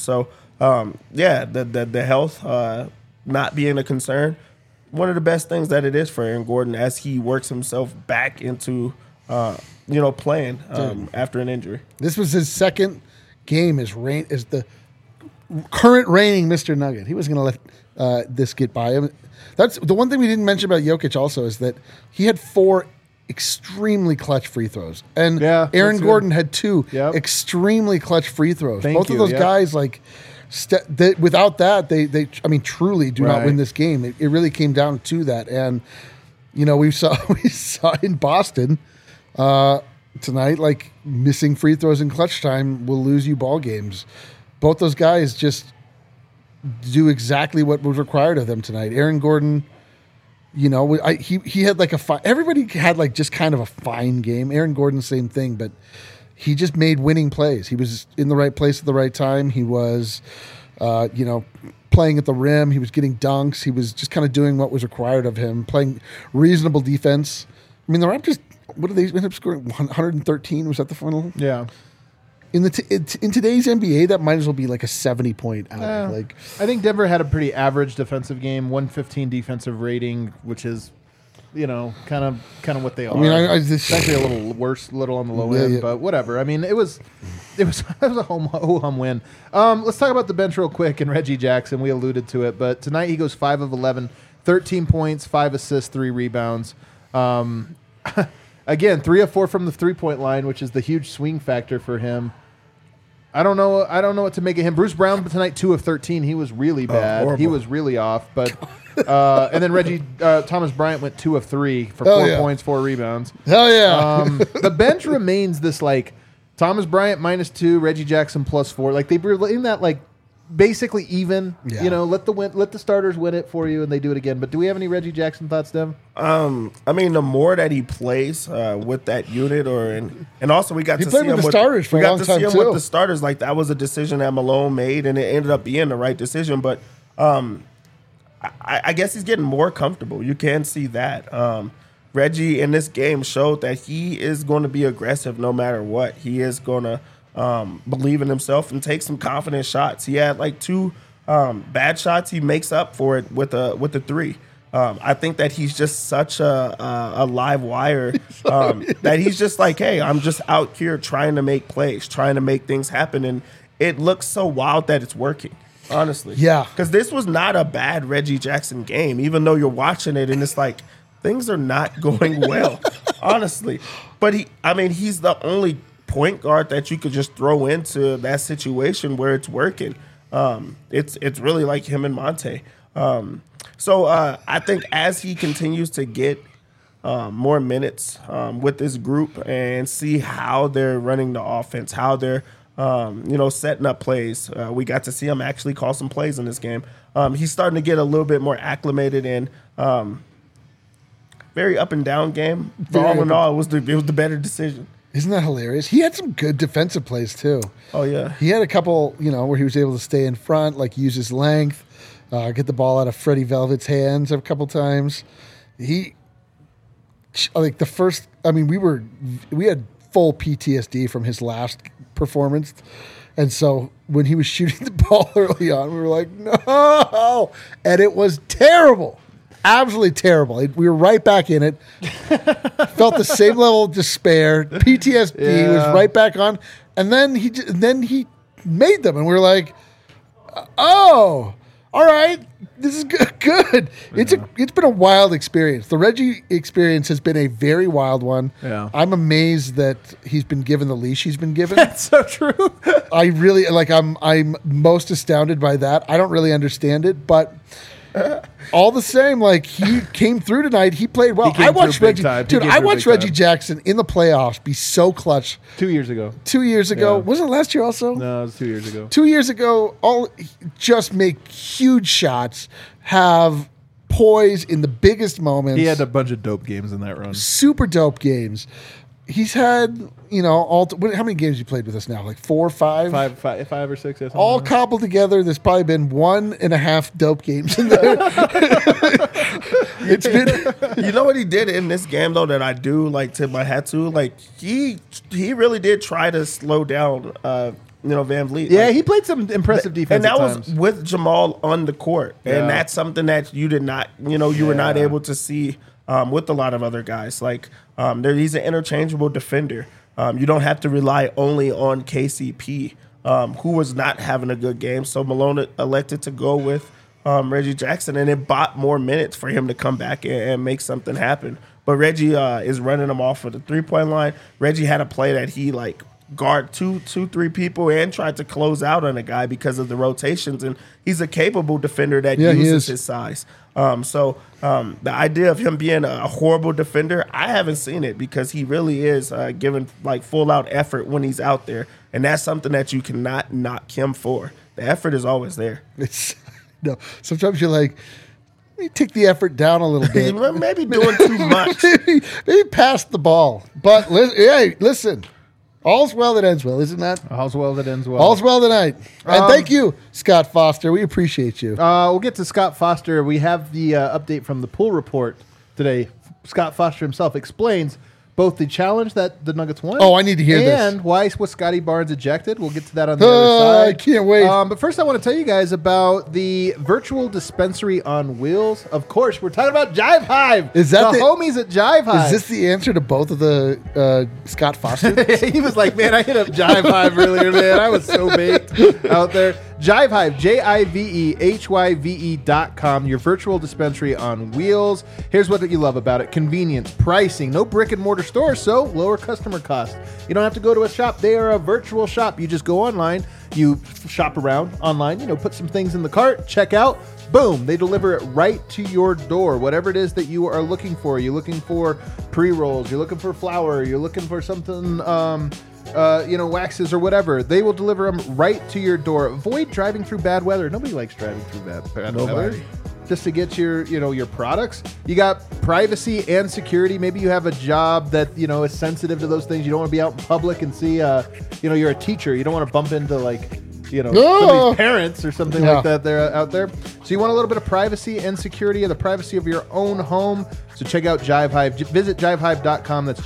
The health not being a concern, one of the best things that it is for Aaron Gordon as he works himself back into, playing after an injury. This was his second game as the current reigning Mr. Nugget. He was going to let this get by him. That's the one thing we didn't mention about Jokic also is that he had 4 extremely clutch free throws. And Aaron Gordon had 2 extremely clutch free throws. Both of those guys, like, without that, they truly do not win this game. It really came down to that. And, we saw in Boston tonight, like, missing free throws in clutch time will lose you ball games. Both those guys just do exactly what was required of them tonight. Aaron Gordon, he had like everybody had like just kind of a fine game. Aaron Gordon, same thing, but he just made winning plays. He was in the right place at the right time. He was, playing at the rim. He was getting dunks. He was just kind of doing what was required of him, playing reasonable defense. I mean, the Raptors, what did they end up scoring? 113? Was that the final? Yeah. In today's NBA, that might as well be like a 70-point outing. I think Denver had a pretty average defensive game, 115 defensive rating, which is, kind of what they are. I mean, it's actually a little worse, little on the low end, but whatever. I mean, it was a home win. Let's talk about the bench real quick and Reggie Jackson. We alluded to it, but tonight he goes 5 of 11, 13 points, 5 assists, 3 rebounds. Again, 3 of 4 from the 3-point line, which is the huge swing factor for him. I don't know what to make of him. Bruce Brown tonight, 2 of 13. He was really bad. He was really off. But and then Thomas Bryant went 2 of 3 for 4 points, 4 rebounds. Hell yeah! The bench remains this like Thomas Bryant -2, Reggie Jackson +4. Like they were in that like basically even. Yeah. Let the starters win it for you, and they do it again. But do we have any Reggie Jackson thoughts, Dev? I mean, the more that he plays with that unit, and also we got to see him with the starters for a long time too. With the starters. Like that was a decision that Malone made, and it ended up being the right decision. But I guess he's getting more comfortable. You can see that. Reggie in this game showed that he is going to be aggressive no matter what. He is going to believe in himself and take some confident shots. He had like 2 bad shots. He makes up for it with a 3. I think that he's just such a live wire that he's just like, hey, I'm just out here trying to make plays, trying to make things happen. And it looks so wild that it's working. Honestly. Yeah. Because this was not a bad Reggie Jackson game, even though you're watching it and it's like, things are not going well, honestly. But he's the only point guard that you could just throw into that situation where it's working. It's really like him and Monte. So I think as he continues to get more minutes with this group and see how they're running the offense, how they're setting up plays. We got to see him actually call some plays in this game. He's starting to get a little bit more acclimated in. Very up and down game. But all in all, it was the better decision. Isn't that hilarious? He had some good defensive plays too. Oh yeah, he had a couple, where he was able to stay in front, like use his length, get the ball out of Freddie Velvet's hands a couple times. We had full PTSD from his last performance. And so when he was shooting the ball early on, we were like, no. And it was terrible. Absolutely terrible. We were right back in it. Felt the same level of despair. PTSD was right back on. And then he made them. And we were like, oh, all right. This is good. It's been a wild experience. The Reggie experience has been a very wild one. Yeah. I'm amazed that he's been given the leash he's been given. That's so true. I really I'm most astounded by that. I don't really understand it, but all the same, he came through tonight. He played well. I watched Reggie Jackson in the playoffs be so clutch. 2 years ago. 2 years ago. Yeah. Was it last year also? No, it was 2 years ago. 2 years ago, just make huge shots, have poise in the biggest moments. He had a bunch of dope games in that run. Super dope games. He's had, how many games you played with us now? Like 4 or 5? Five or six. Or all cobbled together. There's probably been 1.5 dope games in there. It's been. You know what he did in this game though that I do tip my hat to? He really did try to slow down Van Vliet. Yeah, he played some impressive defense. And that was with Jamal on the court. And that's something that you did not, you were not able to see with a lot of other guys. He's an interchangeable defender. You don't have to rely only on KCP, who was not having a good game. So Malone elected to go with Reggie Jackson, and it bought more minutes for him to come back and make something happen. But Reggie is running him off of the three-point line. Reggie had a play that he guard two, 3 people and tried to close out on a guy because of the rotations, and he's a capable defender that uses his size. So the idea of him being a horrible defender, I haven't seen it because he really is giving full out effort when he's out there, and that's something that you cannot knock him for. The effort is always there. Sometimes you're like, let me take the effort down a little bit. Maybe doing too much. maybe pass the ball. But listen. All's well that ends well, isn't that? All's well that ends well. All's well tonight. And thank you, Scott Foster. We appreciate you. We'll get to Scott Foster. We have the update from the pool report today. Scott Foster himself explains both the challenge that the Nuggets won. Oh, I need to hear this. And why was Scotty Barnes ejected. We'll get to that on the other side. I can't wait. But first I want to tell you guys about the virtual dispensary on wheels. Of course, we're talking about Jive Hive. Is that the homies at Jive Hive? Is this the answer to both of the Scott Foster? He was like, man, I hit up Jive Hive earlier, man. I was so baked out there. Jive Hive, JIVEHYVE.com, your virtual dispensary on wheels. Here's what you love about it. Convenience, pricing, no brick and mortar store, so lower customer cost. You don't have to go to a shop. They are a virtual shop. You just go online, you shop around online, put some things in the cart, check out, boom, they deliver it right to your door. Whatever it is that you are looking for. You're looking for pre-rolls, you're looking for flour, you're looking for something, waxes or whatever. They will deliver them right to your door. Avoid driving through bad weather. Nobody likes driving through bad weather. Just to get your products. You got privacy and security. Maybe you have a job that, is sensitive to those things. You don't want to be out in public and see, you're a teacher. You don't want to bump into somebody's parents or something like that. They're out there. So you want a little bit of privacy and security of the privacy of your own home. So check out Jive Hive. Visit jivehive.com. That's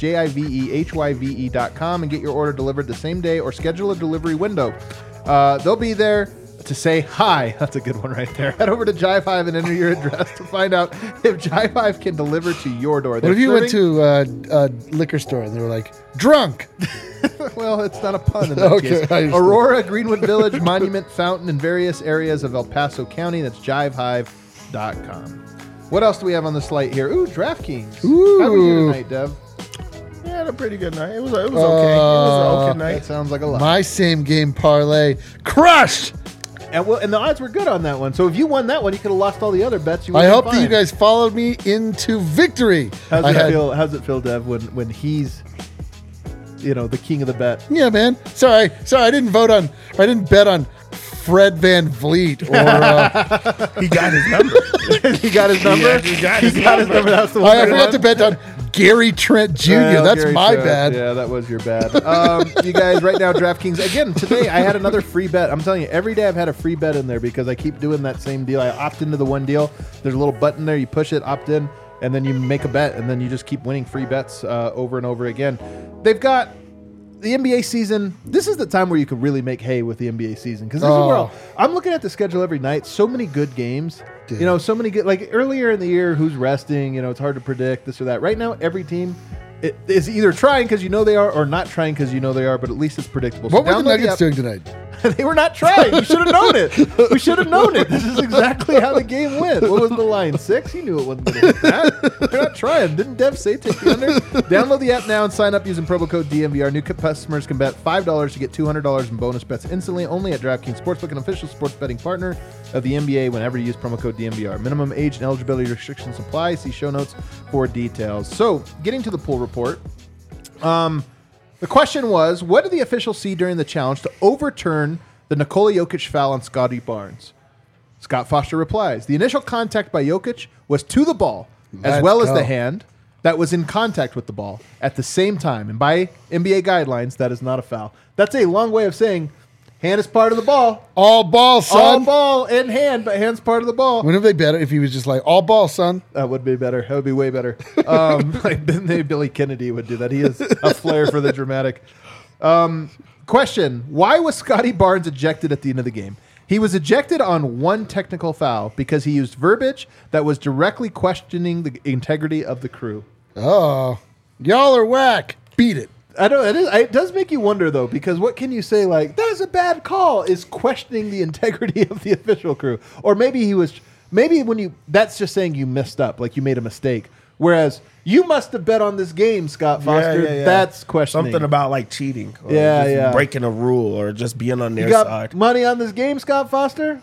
JIVEHYVE.com and get your order delivered the same day or schedule a delivery window. They'll be there to say hi. That's a good one right there. Head over to Jive Hive and enter your address to find out if Jive Hive can deliver to your door. What if you went to a liquor store and they were like, drunk? Well, it's not a pun in that case. Aurora, Greenwood Village, Monument, Fountain, and various areas of El Paso County. That's jivehive.com. What else do we have on the slate here? Ooh, DraftKings. Ooh. How did we do tonight, Dev? Yeah, had a pretty good night. It was okay. It was an okay night. That sounds like a lot. My same game parlay crushed. And the odds were good on that one. So if you won that one, you could have lost all the other bets. I hope that you guys followed me into victory. How's it feel, Dev, when he's, the king of the bet? Yeah, man. Sorry, I didn't bet on Fred Van Vliet or he got his number. He got his number. Yeah, he got his number. That's the one I forgot to bet on Gary Trent Jr. That's Gary my Trent. Bad. Yeah, that was your bad. You guys, right now, DraftKings. Again, today I had another free bet. I'm telling you, every day I've had a free bet in there because I keep doing that same deal. I opt into the one deal. There's a little button there. You push it, opt in, and then you make a bet, and then you just keep winning free bets over and over again. They've got the NBA season. This is the time where you could really make hay with the NBA season because this is where I'm looking at the schedule every night. So many good games. Dude. So many good. Like earlier in the year, who's resting? It's hard to predict this or that. Right now, every team is either trying because they are, or not trying because they are. But at least it's predictable. What were the Nuggets doing tonight? They were not trying. You should have known it. We should have known it. This is exactly how the game went. What was the line? 6? You knew it wasn't going to hit that. They're not trying. Didn't Dev say take the under? Download the app now and sign up using promo code DMVR. New customers can bet $5 to get $200 in bonus bets instantly only at DraftKings Sportsbook, an official sports betting partner of the NBA whenever you use promo code DMVR. Minimum age and eligibility restrictions apply. See show notes for details. So, getting to the pool report. The question was, what did the officials see during the challenge to overturn the Nikola Jokic foul on Scotty Barnes? Scott Foster replies, the initial contact by Jokic was to the ball, as well as the hand that was in contact with the ball at the same time. And by NBA guidelines, that is not a foul. That's a long way of saying hand is part of the ball. All ball, son. All ball and hand, but hand's part of the ball. Wouldn't they better if he was just like, all ball, son? That would be better. That would be way better. Maybe Billy Kennedy would do that. He has a flair for the dramatic. Question, why was Scotty Barnes ejected at the end of the game? He was ejected on one technical foul because he used verbiage that was directly questioning the integrity of the crew. Oh, y'all are whack. Beat it. I know it does make you wonder though, because what can you say like that is a bad call is questioning the integrity of the official crew, or maybe that's just saying you messed up, like you made a mistake. Whereas you must have bet on this game, Scott Foster. Yeah. That's questioning. Something about like cheating, or breaking a rule, or just being on their side. Money on this game, Scott Foster?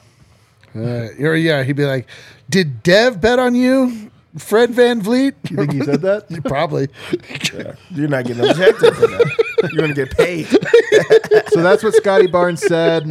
He'd be like, "Did Dev bet on you, Fred Van Vliet?" You think he said that? Probably. Yeah. You're not getting objected for that. You're going to get paid. So that's what Scotty Barnes said.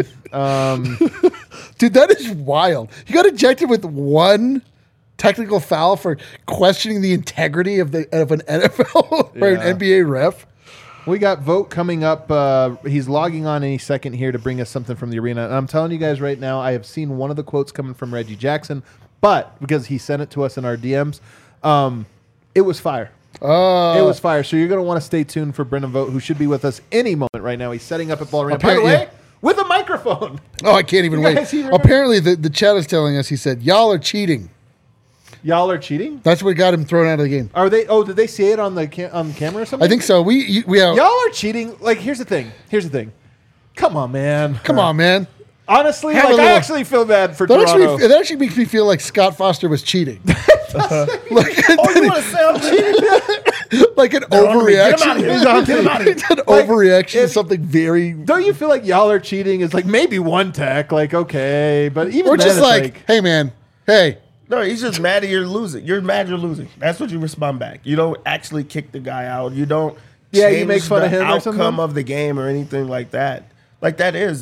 Dude, that is wild. He got ejected with one technical foul for questioning the integrity of an NFL or an NBA ref. We got Vote coming up. He's logging on any second here to bring us something from the arena. And I'm telling you guys right now, I have seen one of the quotes coming from Reggie Jackson, but because he sent it to us in our DMs, it was fire. It was fire. So you're going to want to stay tuned for Brendan Vote, who should be with us any moment right now. He's setting up at Ball Arena. By the way, with a microphone. Oh, I can't even wait. Apparently, the chat is telling us, he said, y'all are cheating. Y'all are cheating? That's what got him thrown out of the game. Are they? Oh, did they see it on the camera or something? I think so. We have, y'all are cheating. Like, here's the thing. Come on, man. Honestly, I actually feel bad for Toronto. That actually makes me feel like Scott Foster was cheating. You want to say I'm cheating? Like an overreaction. Get him out of here. It's an overreaction to something very... Don't you feel like y'all are cheating is like maybe one tech, like, okay, but even or then just like, hey, man, hey. No, he's just mad that you're losing. You're mad you're losing. That's what you respond back. You don't actually kick the guy out. You don't change you make fun of him or something? Outcome of the game or anything like that. Like that is...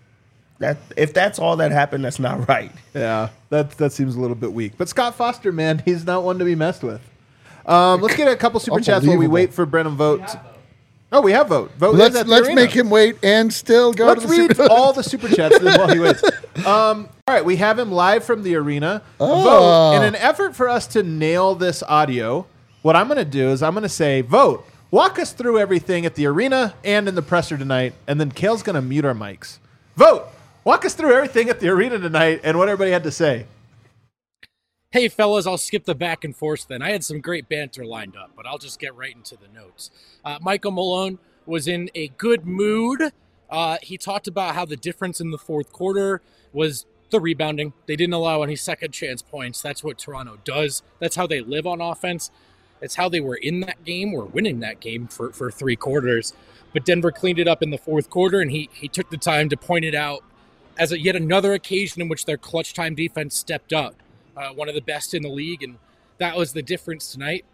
if that's all that happened, that's not right. Yeah, that seems a little bit weak. But Scott Foster, man, he's not one to be messed with. Let's get a couple super chats while we wait for Brennan Vote. Oh, we have Vote. Let's make him wait and still go to the super Let's read all the super chats while he waits. All right, we have him live from the arena. Vote, in an effort for us to nail this audio, what I'm going to do is I'm going to say, Vote, walk us through everything at the arena and in the presser tonight, and then Kale's going to mute our mics. Vote. Walk us through everything at the arena tonight and what everybody had to say. Hey, fellas, I'll skip the back and forth then. I had some great banter lined up, but I'll just get right into the notes. Michael Malone was in a good mood. He talked about how the difference in the fourth quarter was the rebounding. They didn't allow any second chance points. That's what Toronto does. That's how they live on offense. It's how they were in that game or winning that game for 3 quarters. But Denver cleaned it up in the fourth quarter, and he took the time to point it out as yet another occasion in which their clutch time defense stepped up. One of the best in the league, and that was the difference tonight.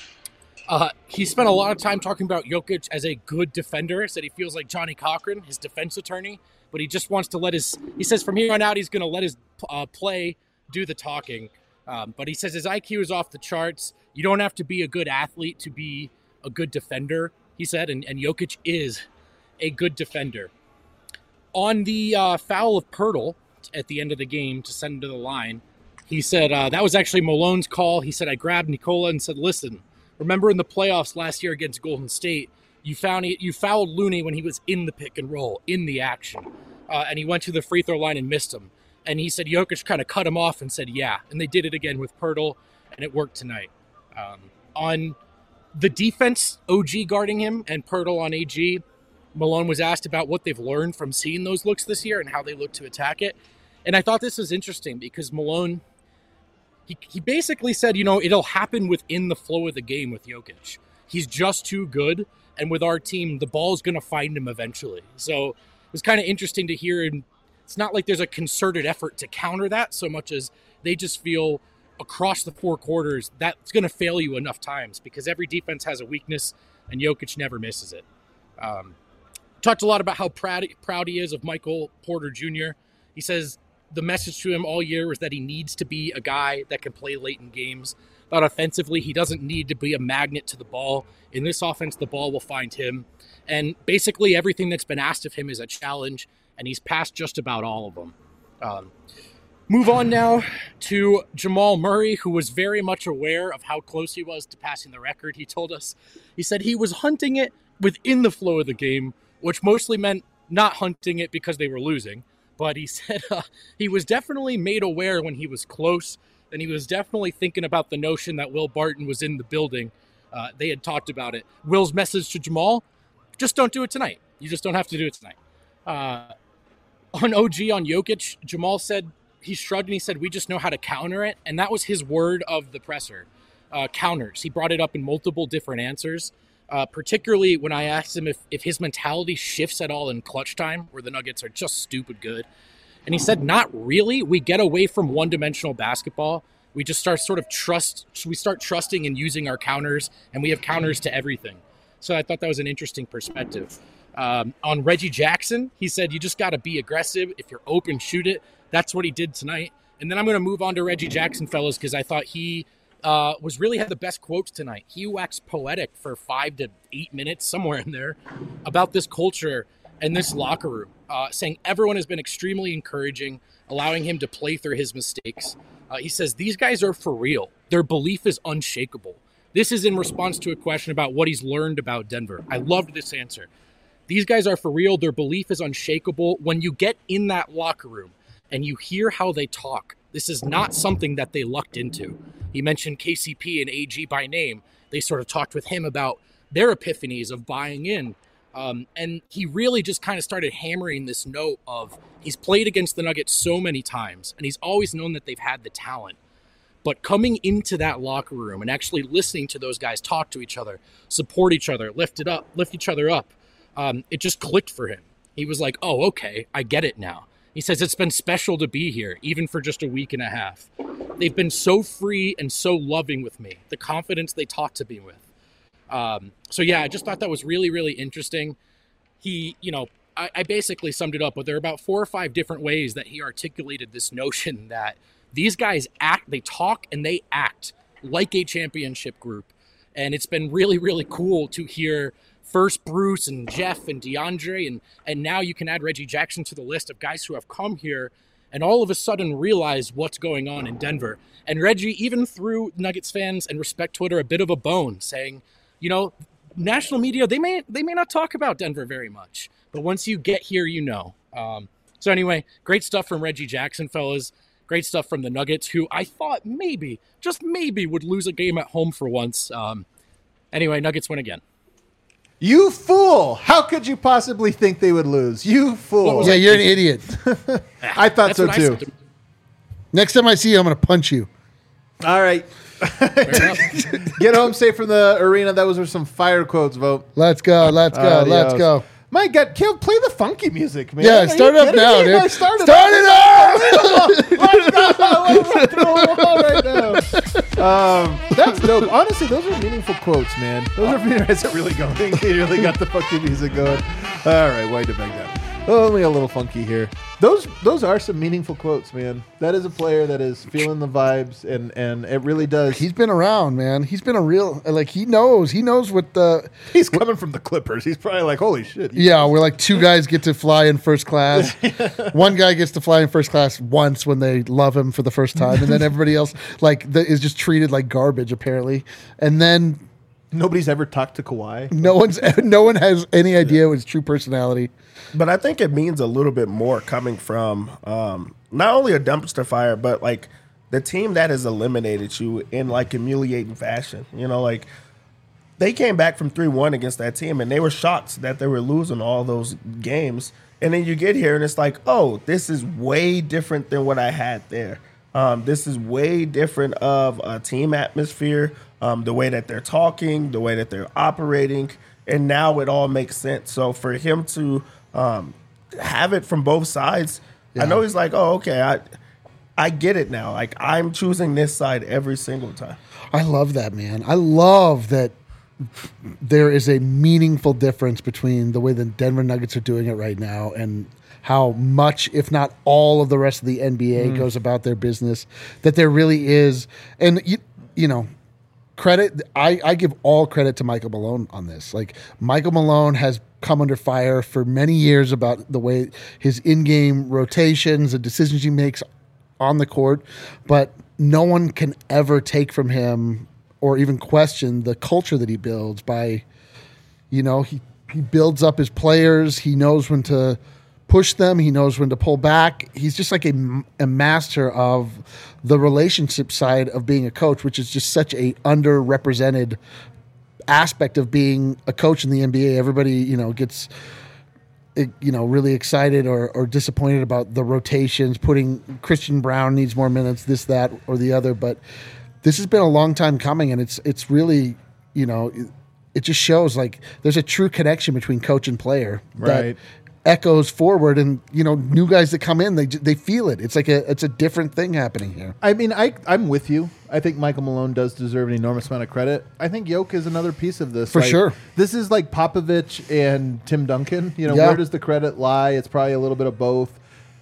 He spent a lot of time talking about Jokic as a good defender. Said he feels like Johnny Cochran, his defense attorney, but he just wants to he says from here on out he's going to let his play do the talking. But he says his IQ is off the charts. You don't have to be a good athlete to be a good defender, he said, and Jokic is a good defender. On the foul of Poeltl at the end of the game to send him to the line, he said, that was actually Malone's call. He said, I grabbed Nikola and said, listen, remember in the playoffs last year against Golden State, you fouled Looney when he was in the pick and roll, in the action. And he went to the free throw line and missed him. And he said Jokic kind of cut him off and said, yeah. And they did it again with Poeltl, and it worked tonight. On the defense, OG guarding him and Poeltl on AG, Malone was asked about what they've learned from seeing those looks this year and how they look to attack it. And I thought this was interesting because Malone, he basically said, it'll happen within the flow of the game with Jokic. He's just too good. And with our team, the ball's going to find him eventually. So it was kind of interesting to hear. And it's not like there's a concerted effort to counter that so much as they just feel across the 4 quarters that's going to fail you enough times because every defense has a weakness and Jokic never misses it. Talked a lot about how proud he is of Michael Porter Jr. He says the message to him all year was that he needs to be a guy that can play late in games. But offensively, he doesn't need to be a magnet to the ball. In this offense, the ball will find him. And basically everything that's been asked of him is a challenge, and he's passed just about all of them. Move on now to Jamal Murray, who was very much aware of how close he was to passing the record. He told us, he said he was hunting it within the flow of the game, which mostly meant not hunting it because they were losing. But he said he was definitely made aware when he was close, and he was definitely thinking about the notion that Will Barton was in the building. They had talked about it. Will's message to Jamal, just don't do it tonight. You just don't have to do it tonight. On OG, on Jokic, Jamal said, he shrugged and he said, we just know how to counter it. And that was his word of the presser, counters. He brought it up in multiple different answers, particularly when I asked him if his mentality shifts at all in clutch time, where the Nuggets are just stupid good. And he said, not really. We get away from one-dimensional basketball. We just start trusting and using our counters, and we have counters to everything. So I thought that was an interesting perspective. On Reggie Jackson, he said, you just got to be aggressive. If you're open, shoot it. That's what he did tonight. And then I'm going to move on to Reggie Jackson, fellas, because I thought he had the best quotes tonight. He waxed poetic for 5 to 8 minutes, somewhere in there, about this culture and this locker room, saying everyone has been extremely encouraging, allowing him to play through his mistakes. He says, these guys are for real. Their belief is unshakable. This is in response to a question about what he's learned about Denver. I loved this answer. These guys are for real. Their belief is unshakable. When you get in that locker room and you hear how they talk, this is not something that they lucked into. He mentioned KCP and AG by name. They sort of talked with him about their epiphanies of buying in. And he really just kind of started hammering this note of he's played against the Nuggets so many times, and he's always known that they've had the talent. But coming into that locker room and actually listening to those guys talk to each other, support each other, lift each other up, it just clicked for him. He was like, oh, okay, I get it now. He says it's been special to be here, even for just a week and a half. They've been so free and so loving with me, the confidence they talk to me with. So yeah, I just thought that was really, really interesting. I basically summed it up, but there are about 4 or 5 different ways that he articulated this notion that these guys they talk and they act like a championship group. And it's been really, really cool to hear first Bruce and Jeff and DeAndre, and now you can add Reggie Jackson to the list of guys who have come here and all of a sudden realize what's going on in Denver. And Reggie even threw Nuggets fans and Respect Twitter a bit of a bone, saying, national media, they may not talk about Denver very much, but once you get here, So anyway, great stuff from Reggie Jackson, fellas. Great stuff from the Nuggets, who I thought maybe, just maybe, would lose a game at home for once. Anyway, Nuggets win again. You fool! How could you possibly think they would lose? You fool! Yeah, you're an idiot. I thought so too. Next time I see you, I'm going to punch you. All right. Get home safe from the arena. That was some fire quotes, Vote. Let's go. Let's go. Let's go. My God, Kill, play the funky music, man. Yeah, start it up now, dude. Start it up! Let's go! Let's through a wall right now. That's dope. Honestly, those are meaningful quotes, man. Those are meaningful. Is it really going? You really got the funky music going. All right, wind it back down. Only a little funky here. Those are some meaningful quotes, man. That is a player that is feeling the vibes, and it really does. He's been around, man. He's been a real, like, he knows what the... He's coming from the Clippers. He's probably like, holy shit. Yeah, where like two guys get to fly in first class. One guy gets to fly in first class once when they love him for the first time, and then everybody else is just treated like garbage, apparently. And then... Nobody's ever talked to Kawhi. No one has any idea his true personality. But I think it means a little bit more coming from not only a dumpster fire, but like the team that has eliminated you in like humiliating fashion. You know, like they came back from 3-1 against that team, and they were shocked that they were losing all those games. And then you get here, and it's like, oh, this is way different than what I had there. This is way different of a team atmosphere, the way that they're talking, the way that they're operating, and now it all makes sense. So for him to have it from both sides, I know he's like, oh, okay, I get it now. Like, I'm choosing this side every single time. I love that, man. I love that there is a meaningful difference between the way the Denver Nuggets are doing it right now and how much, if not all, of the rest of the NBA goes about their business, that there really is. And, you know, credit, I give all credit to Michael Malone on this. Like, Michael Malone has come under fire for many years about the way his in-game rotations and decisions he makes on the court, but no one can ever take from him or even question the culture that he builds by, you know, he builds up his players. He knows when to push them. He knows when to pull back. He's just like a master of the relationship side of being a coach, which is just such a underrepresented aspect of being a coach in the NBA. Everybody, you know, gets, you know, really excited or disappointed about the rotations, putting Christian Brown needs more minutes, this, that, or the other. But this has been a long time coming, and it's really, you know, it just shows like there's a true connection between coach and player. Right. That echoes forward, and you know, new guys that come in, they feel it. It's like it's a different thing happening here. I mean, I'm with you. I think Michael Malone does deserve an enormous amount of credit. I think Yoke is another piece of this. For sure. This is like Popovich and Tim Duncan. You know, where does the credit lie? It's probably a little bit of both.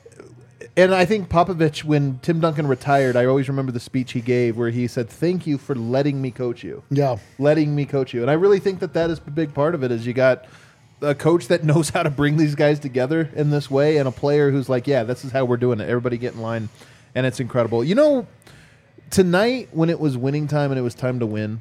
And I think Popovich, when Tim Duncan retired, I always remember the speech he gave where he said, "Thank you for letting me coach you." Yeah. Letting me coach you. And I really think that is a big part of it, is you got a coach that knows how to bring these guys together in this way, and a player who's like, yeah, this is how we're doing it. Everybody get in line, and it's incredible. You know, tonight when it was winning time and it was time to win,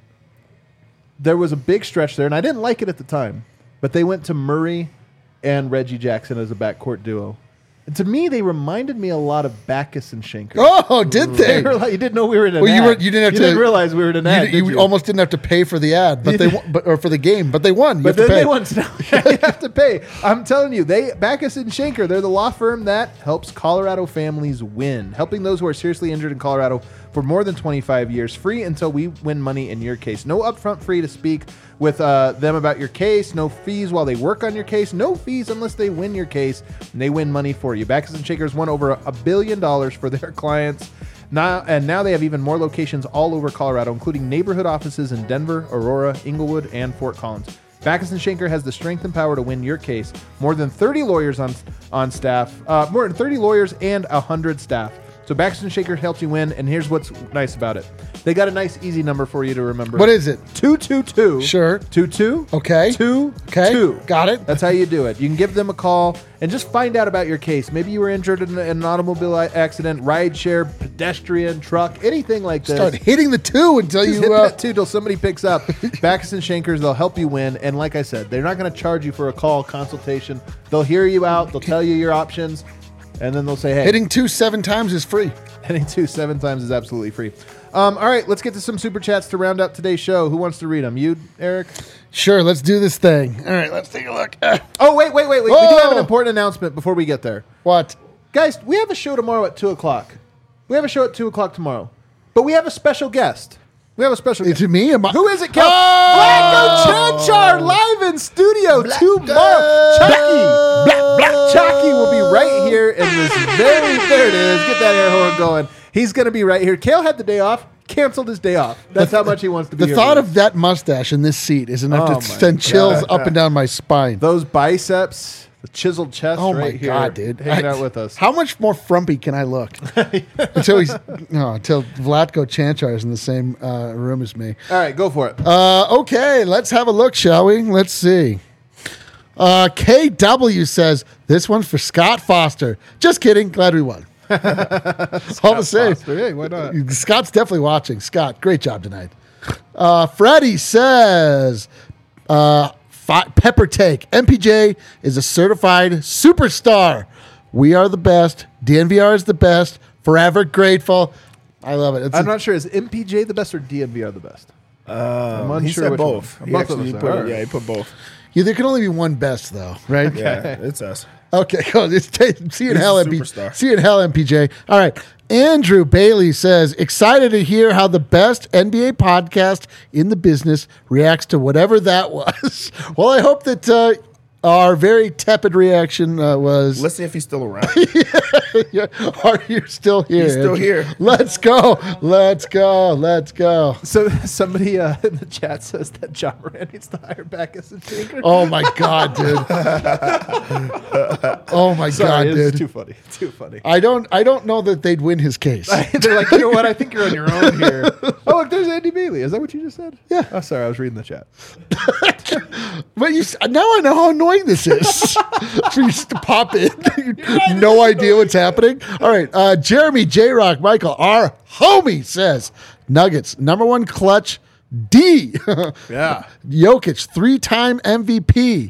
there was a big stretch there, and I didn't like it at the time, but they went to Murray and Reggie Jackson as a backcourt duo. And to me, they reminded me a lot of Backus and Schenker. Oh, did they? Like, you didn't know we were in an ad. You didn't realize we were in an ad. You almost didn't have to pay for the ad, but or for the game, but they won. But then they won. So you have to pay. I'm telling you, Backus and Schenker, they're the law firm that helps Colorado families win, helping those who are seriously injured in Colorado for more than 25 years, free until we win money in your case. No upfront fee to speak with them about your case. No fees while they work on your case. No fees unless they win your case, and they win money for you. Backus and Schenker's won over $1 billion for their clients. Now they have even more locations all over Colorado, including neighborhood offices in Denver, Aurora, Inglewood, and Fort Collins. Backus and Schenker has the strength and power to win your case. More than 30 lawyers on staff, more than 30 lawyers and 100 staff. So Backus and Schenker helps you win, and here's what's nice about it. They got a nice, easy number for you to remember. What is it? 222. Sure. 22. Okay. 2. Okay. 2. Got it. That's how you do it. You can give them a call and just find out about your case. Maybe you were injured in an automobile accident, rideshare, pedestrian, truck, anything like this. Start hitting the 2 until just you... hit that 2 till somebody picks up. Backus and Schenker's, they'll help you win. And like I said, they're not going to charge you for a call consultation. They'll hear you out. They'll tell you your options. And then they'll say, hey. Hitting 2 7 times is free. Hitting 2 7 times is absolutely free. All right, let's get to some super chats to round out today's show. Who wants to read them? You, Eric? Sure, let's do this thing. All right, let's take a look. Oh, wait. We do have an important announcement before we get there. What? Guys, we have a show tomorrow at 2 o'clock. We have a show at 2 o'clock tomorrow. But we have a special guest. Who is me? Who is it, Kel? Vlatko Cancar live in studio tomorrow. Chucky will be right here in this there it is. Get that air horn going. He's going to be right here. Kale had the day off, canceled his day off. That's how much he wants to be here. The thought of that mustache in this seat is enough to send chills up and down my spine. Those biceps, the chiseled chest Oh right my here. God, dude. Hanging out with us. How much more frumpy can I look? until Vlatko Cancar is in the same room as me. All right, go for it. Okay, let's have a look, shall we? Let's see. KW says, this one's for Scott Foster. Just kidding. Glad we won. All the same. Hey, why not? Scott's definitely watching. Scott, great job tonight. Freddie says, Pepper Take. MPJ is a certified superstar. We are the best. DNVR is the best. Forever grateful. I love it. I'm not sure. Is MPJ the best or DNVR the best? I'm unsure he said which both. one. He Both of actually us put, are. yeah, he put both. Yeah, there can only be one best, though, right? Yeah, it's us. Okay, cool. See you in hell, superstar. See you in hell, MPJ. All right. Andrew Bailey says, excited to hear how the best NBA podcast in the business reacts to whatever that was. Well, I hope that our very tepid reaction was... Let's see if he's still around. Yeah. Are you still here? He's still here. Let's go. Let's go. Let's go. So somebody in the chat says that John Moran needs to hire back as a tinker. Oh, my God, dude. Oh, my God, it's dude. too funny. Too funny. I don't know that they'd win his case. They're like, you know what? I think you're on your own here. Oh, look, there's Andy Bailey. Is that what you just said? Yeah. Oh, sorry. I was reading the chat. But now I know how annoying this is for you to pop in. No idea what's happening. All right. Jeremy J Rock Michael, our homie, says Nuggets #1 clutch D. Yeah. Jokic 3-time MVP.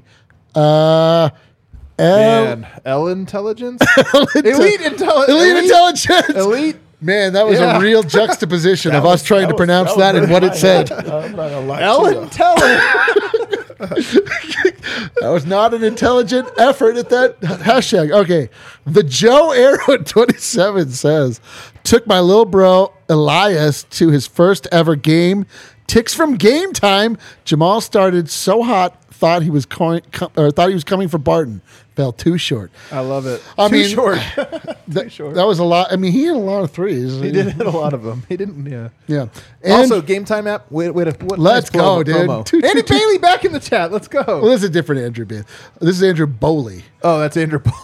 And L intelligence? Elite intelligence. Elite. Man, that was a real juxtaposition of us trying to pronounce that and what it said. I'm not gonna lie L to you. intelligence. That was not an intelligent effort at that hashtag. Okay. The Joe Arrow 27 says, took my little bro Elias to his first ever game. Ticks from Game Time. Jamal started so hot, thought he was coming for Barton. Fell too short. I love it. Too short. That was a lot. I mean, he hit a lot of threes. He did hit a lot of them. He didn't. Yeah. Yeah. And Also, Game Time app. Wait. What let's nice go, dude. promo. Andy Bailey back in the chat. Let's go. Well, this is a different Andrew Bailey. This is Andrew Bowley. Oh, that's Andrew Bowley.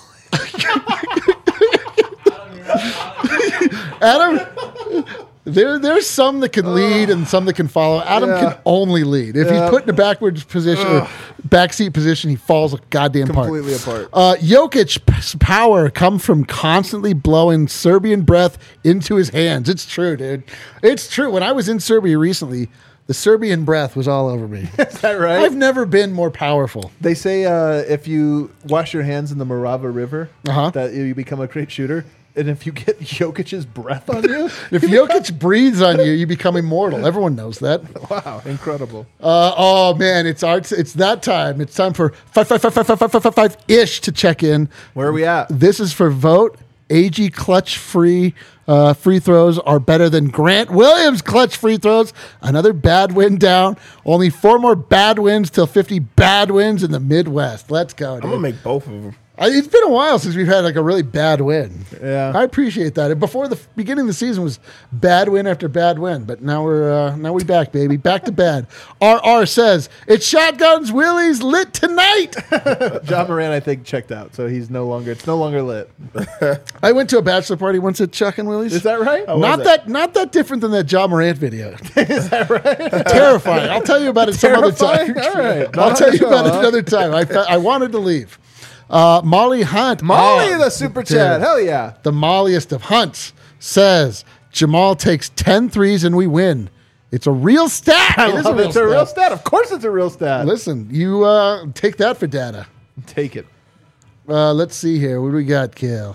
Adam, there's some that can lead and some that can follow. Adam can only lead. If he's put in a backwards position or backseat position, he falls goddamn Completely apart. Jokic's power comes from constantly blowing Serbian breath into his hands. It's true, dude. It's true. When I was in Serbia recently, the Serbian breath was all over me. Is that right? I've never been more powerful. They say if you wash your hands in the Morava River, that you become a great shooter. And if you get Jokic's breath on you, if Jokic breathes on you, you become immortal. Everyone knows that. Wow, incredible! Oh man, it's that time. It's time for 5-ish to check in. Where are we at? This is for vote. AG clutch free throws are better than Grant Williams clutch free throws. Another bad win down. Only 4 more bad wins till 50 bad wins in the Midwest. Let's go, dude. I'm gonna make both of them. It's been a while since we've had like a really bad win. Yeah, I appreciate that. And before the beginning of the season was bad win after bad win, but now we're back, baby, back to bad. RR says it's shotguns, Willie's lit tonight. John Moran, I think, checked out, so it's no longer lit. I went to a bachelor party once at Chuck and Willie's. Is that right? Not that different than that John Morant video. Is that right? Terrifying. I'll tell you about it some other time. All right, I'll tell you about it another time. I wanted to leave. Molly Hunt. The super chat. Dude. Hell yeah. The molliest of Hunts says Jamal takes 10 threes and we win. It's a real stat. It's a real stat. Of course it's a real stat. Listen, you take that for data. Take it. Let's see here. What do we got, Kale?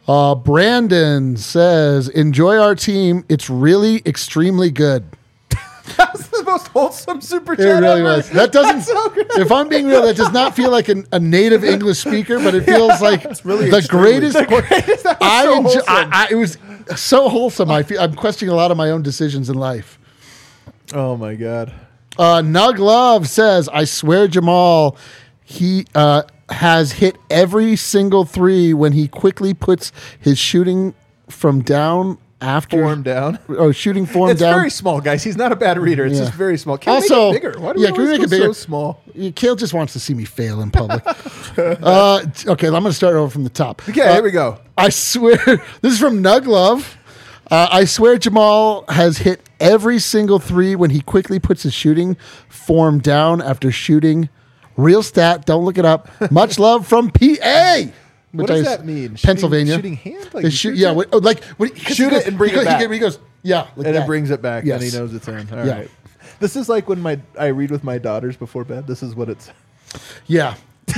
Brandon says, enjoy our team. It's really extremely good. That was the most wholesome super chat It really ever. was. That doesn't. That's so good. If I'm being real, that does not feel like a native English speaker, but it feels like really the extremely- greatest. That was so wholesome. It was so wholesome. I'm questioning a lot of my own decisions in life. Oh my god. Nug Love says, I swear Jamal, he has hit every single three when he quickly puts his shooting from down after Form down. or shooting form It's down. very small, guys. He's not a bad reader. It's Yeah. just very small. Can we Also, make it bigger? Why do yeah, we can we always make go it bigger? so small? Kale just wants to see me fail in public. Okay, I'm going to start over from the top. Okay, here we go. I swear, this is from Nug Love. I swear Jamal has hit every single three when he quickly puts his shooting form down after shooting. Real stat, don't look it up. Much love from PA. What does that mean? Pennsylvania. Shooting hand? Like The he shoot, shoots yeah, it? Shoot it and bring it back. He goes, yeah. Like And that. it brings it back, Yes. and he knows it's in. All right. Yeah. This is like when I read with my daughters before bed. This is what it's. Yeah.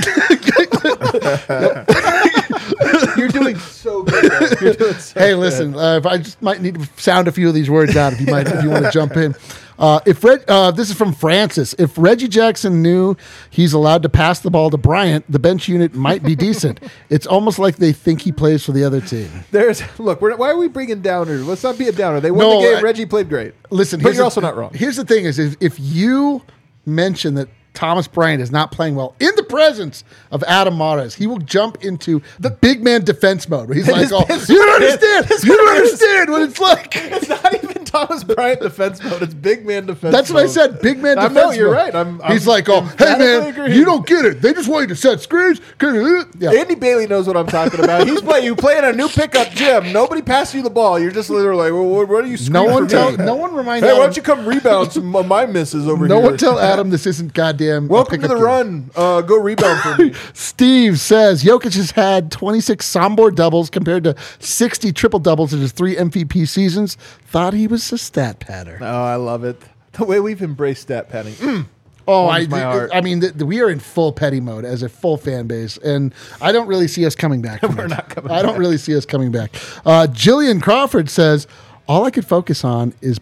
You're doing so good. Though. You're doing so Hey, good. listen. If I just might need to sound a few of these words out, if you want to jump in. This is from Francis. If Reggie Jackson knew he's allowed to pass the ball to Bryant, the bench unit might be decent. It's almost like they think he plays for the other team. Why are we bringing downers? Let's not be a downer. They won No, the game. Reggie played great. Listen, but you're also not wrong. Here's the thing: is if you mention that Thomas Bryant is not playing well in the presence of Adam Mares, he will jump into the big man defense mode. Where he's like, "Oh, you don't understand! You don't understand what it's like." It's not even Thomas Bryant defense mode. It's big man defense. That's what I mode. said. Big man I defense. know you're mode. right. He's like, "Oh, hey emphatically man, agree. you don't get it. They just want you to set screens." Yeah. Andy Bailey knows what I'm talking about. You play in a new pickup gym. Nobody passes you the ball. You're just literally like, well, what are you? No one tell. No one remind. Hey, Adam, why don't you come rebound some of my misses over No here? one tell Adam this isn't goddamn. Welcome to pickup the game. run. Go rebound for me. Steve says Jokic has had 26 Sombor doubles compared to 60 triple doubles in his 3 MVP seasons. Thought he was a stat patter. Oh, I love it. The way we've embraced stat padding. Oh, warms my heart. I mean, we are in full petty mode as a full fan base, and I don't really see us coming back. From We're it. not coming I don't really see us coming back. Jillian Crawford says, all I could focus on is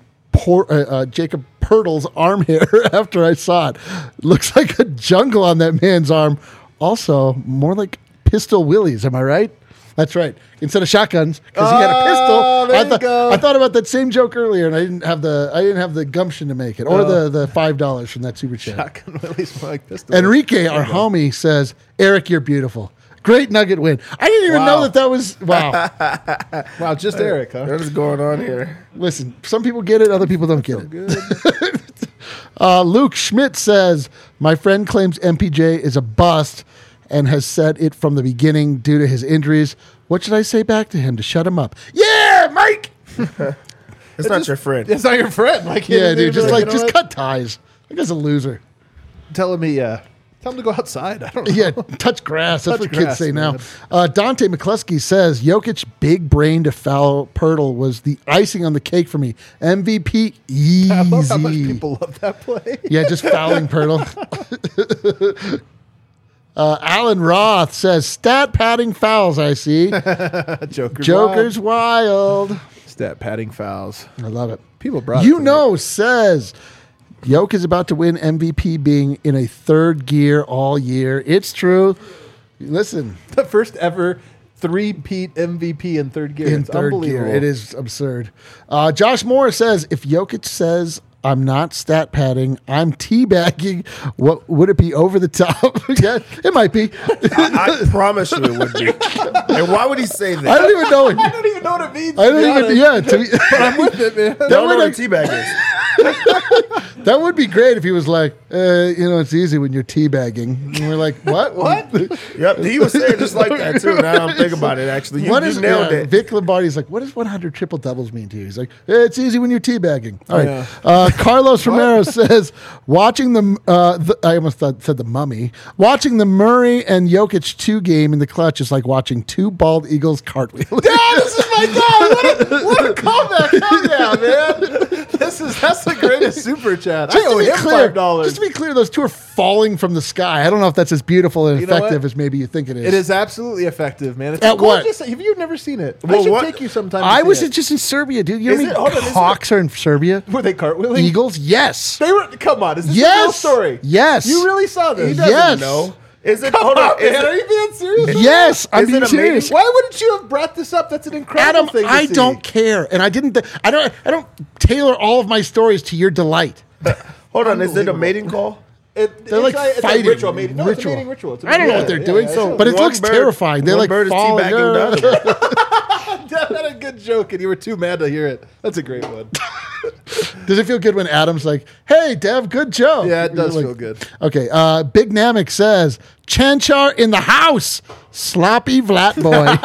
Jacob Pirtle's arm hair after I saw it. Looks like a jungle on that man's arm. Also, more like Pistol Willies. Am I right? That's right. Instead of shotguns, because he had a pistol. There you go. I thought about that same joke earlier, and I didn't have the gumption to make it, or the $5 from that super chat. Shotgun Willie's more like pistol. Enrique, our homie, says, "Eric, you're beautiful. Great Nugget win." I didn't even know that was wow. Wow, just Eric, huh? What is going on here? Listen, some people get it, other people don't get it. Luke Schmidt says, "My friend claims MPJ is a bust and has said it from the beginning due to his injuries. What should I say back to him to shut him up?" Yeah, Mike. It's not your friend. It's not your friend. Like, Yeah, dude. Just you know just what? cut ties. That guy's a loser. Tell him to go outside. I don't know. Yeah, touch grass. That's Touch what kids grass, say man. now. Dante McCluskey says, Jokic big brain to foul Pirtle was the icing on the cake for me. MVP easy. I love how much people love that play. Yeah, just fouling Pirtle. Alan Roth says, stat padding fouls, I see. Joker's wild. Stat padding fouls. I love it. People brought You it to know, says, Jokic is about to win MVP being in a third gear all year. It's true. Listen. the first ever three-peat MVP in third gear. In It's third unbelievable. gear. It is absurd. Josh Moore says, if Jokic says, I'm not stat padding, I'm teabagging, what would it be over the top? Yeah, it might be. I promise you it would be. And why would he say that? I don't even know. I don't even know what it means. I don't even. Yeah, to me, I'm with it, man. Don't know would what a like- teabag is. that would be great if he was like, it's easy when you're teabagging. And we're like, what? What? Yep, he was saying just like that too. Now I'm thinking about it. Actually, you nailed it. Vic Lombardi's like, what does 100 triple doubles mean to you? He's like, it's easy when you're teabagging. All right. Yeah. Carlos Romero says, watching I almost said the Mummy. Watching the Murray and Jokic 2 game in the clutch is like watching two bald eagles cartwheel. Yeah, this is my dog. What a callback. Hell yeah, man. This That's the greatest super chat. I Just owe to be him clear, $5. just to be clear, those two are falling from the sky. I don't know if that's as beautiful and You know effective what? as maybe you think it is. It is absolutely effective, man. It's At what? gorgeous. Have you never seen it? I Well, should what- take you sometime. to I see was it. just in Serbia, dude. You know Is how it- hold many on, is it- hawks are in Serbia? Were they cartwheeling? Eagles? Yes. They were. Come on, is this a real Yes. story? Yes. You really saw this? He doesn't Yes. know. Is it? Come Hold on, on. Is man. Are it, you being serious? Yes, I'm Is it being a serious. mating- Why wouldn't you have brought this up? That's an incredible Adam, thing to I see. don't care, and I didn't. I don't tailor all of my stories to your delight. hold on. Is it a Unbelievable. mating call? They're like it's fighting. A ritual. Mating. No, it's a Ritual. mating ritual. It's a I don't know mating- what they're yeah, doing, yeah, so it's but it One looks bird- terrifying. They're one like bird is falling. teabagging the other one. Dev had a good joke, and you were too mad to hear it. That's a great one. Does it feel good when Adam's like, "Hey, Dev, good joke"? Yeah, it does Like- feel good. Okay, Big Namek says, "Chanchar in the house, sloppy Vlat boy."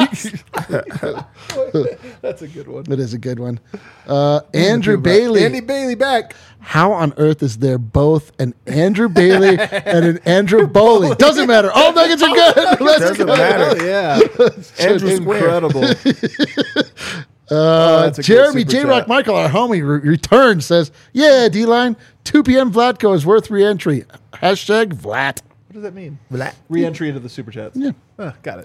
That's a good one. That is a good one. Andrew Bailey. Andy Bailey back. How on earth is there both an Andrew Bailey and an Andrew Bowley? Doesn't matter. All nuggets are good. Let's Doesn't go. matter. Oh, yeah. Andrew Square. Incredible. That's a great Jeremy super J. Rock chat. Michael, our homie, returns, says, "Yeah, D-Line, 2 p.m. Vlatko is worth re-entry. Hashtag Vlat." What does that mean? Vlat. Re-entry into the super chats. Yeah. Got it.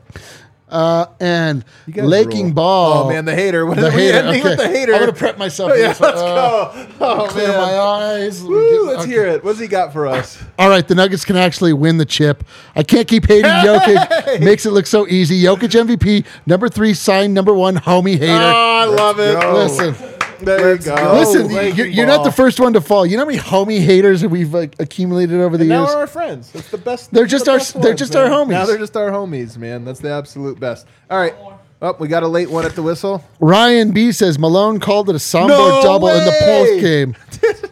And You guys Laking rule. Ball. Oh man, the hater. What The are we hater. ending Okay. with the hater? I'm going to prep myself. Oh, yeah, for let's this. go. Oh Clear man. my eyes. Woo, let's Okay. hear it. What's he got for us? All right, the Nuggets can actually win the chip. I can't keep hating Jokic. Makes it look so easy. Jokic MVP, number 3, signed number 1, homie hater. Oh, I love it. go. Listen, There Let's you go. go. listen, Laking you're not Ball. the first one to fall. You know how many homie haters that we've accumulated over the And now years? we're our friends. That's the best. They're that's just the our- best they're ones, just man. our homies. Now they're just our homies, man. That's the absolute best. All right. Oh, we got a late one at the whistle. Ryan B says Malone called it a Sombor No double in the way! post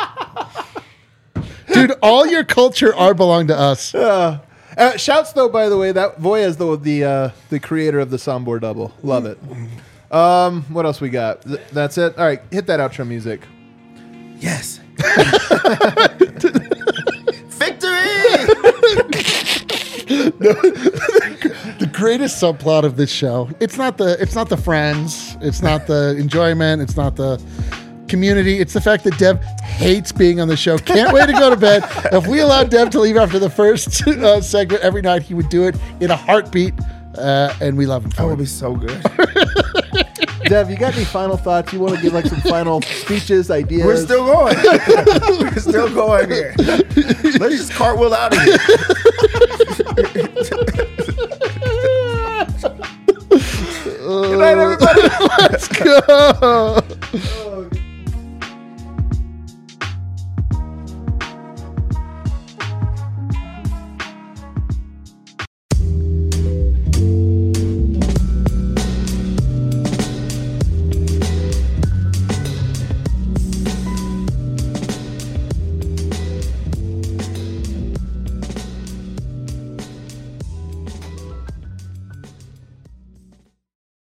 game. Dude, all your culture are belong to us. Shouts though, by the way, that Voya is the creator of the Sombor double. Love it. What else we got? That's it. All right, hit that outro music. Yes. Victory! The greatest subplot of this show. It's not the friends. It's not the enjoyment. It's not the community. It's the fact that Dev hates being on the show. Can't wait to go to bed. If we allowed Dev to leave after the first segment every night, he would do it in a heartbeat. And we love him That for would it. be so good. Dev, you got any final thoughts? You want to give like some final speeches, ideas? We're still going. We're still going here. Let's just cartwheel out of here. Good night, everybody. Let's go.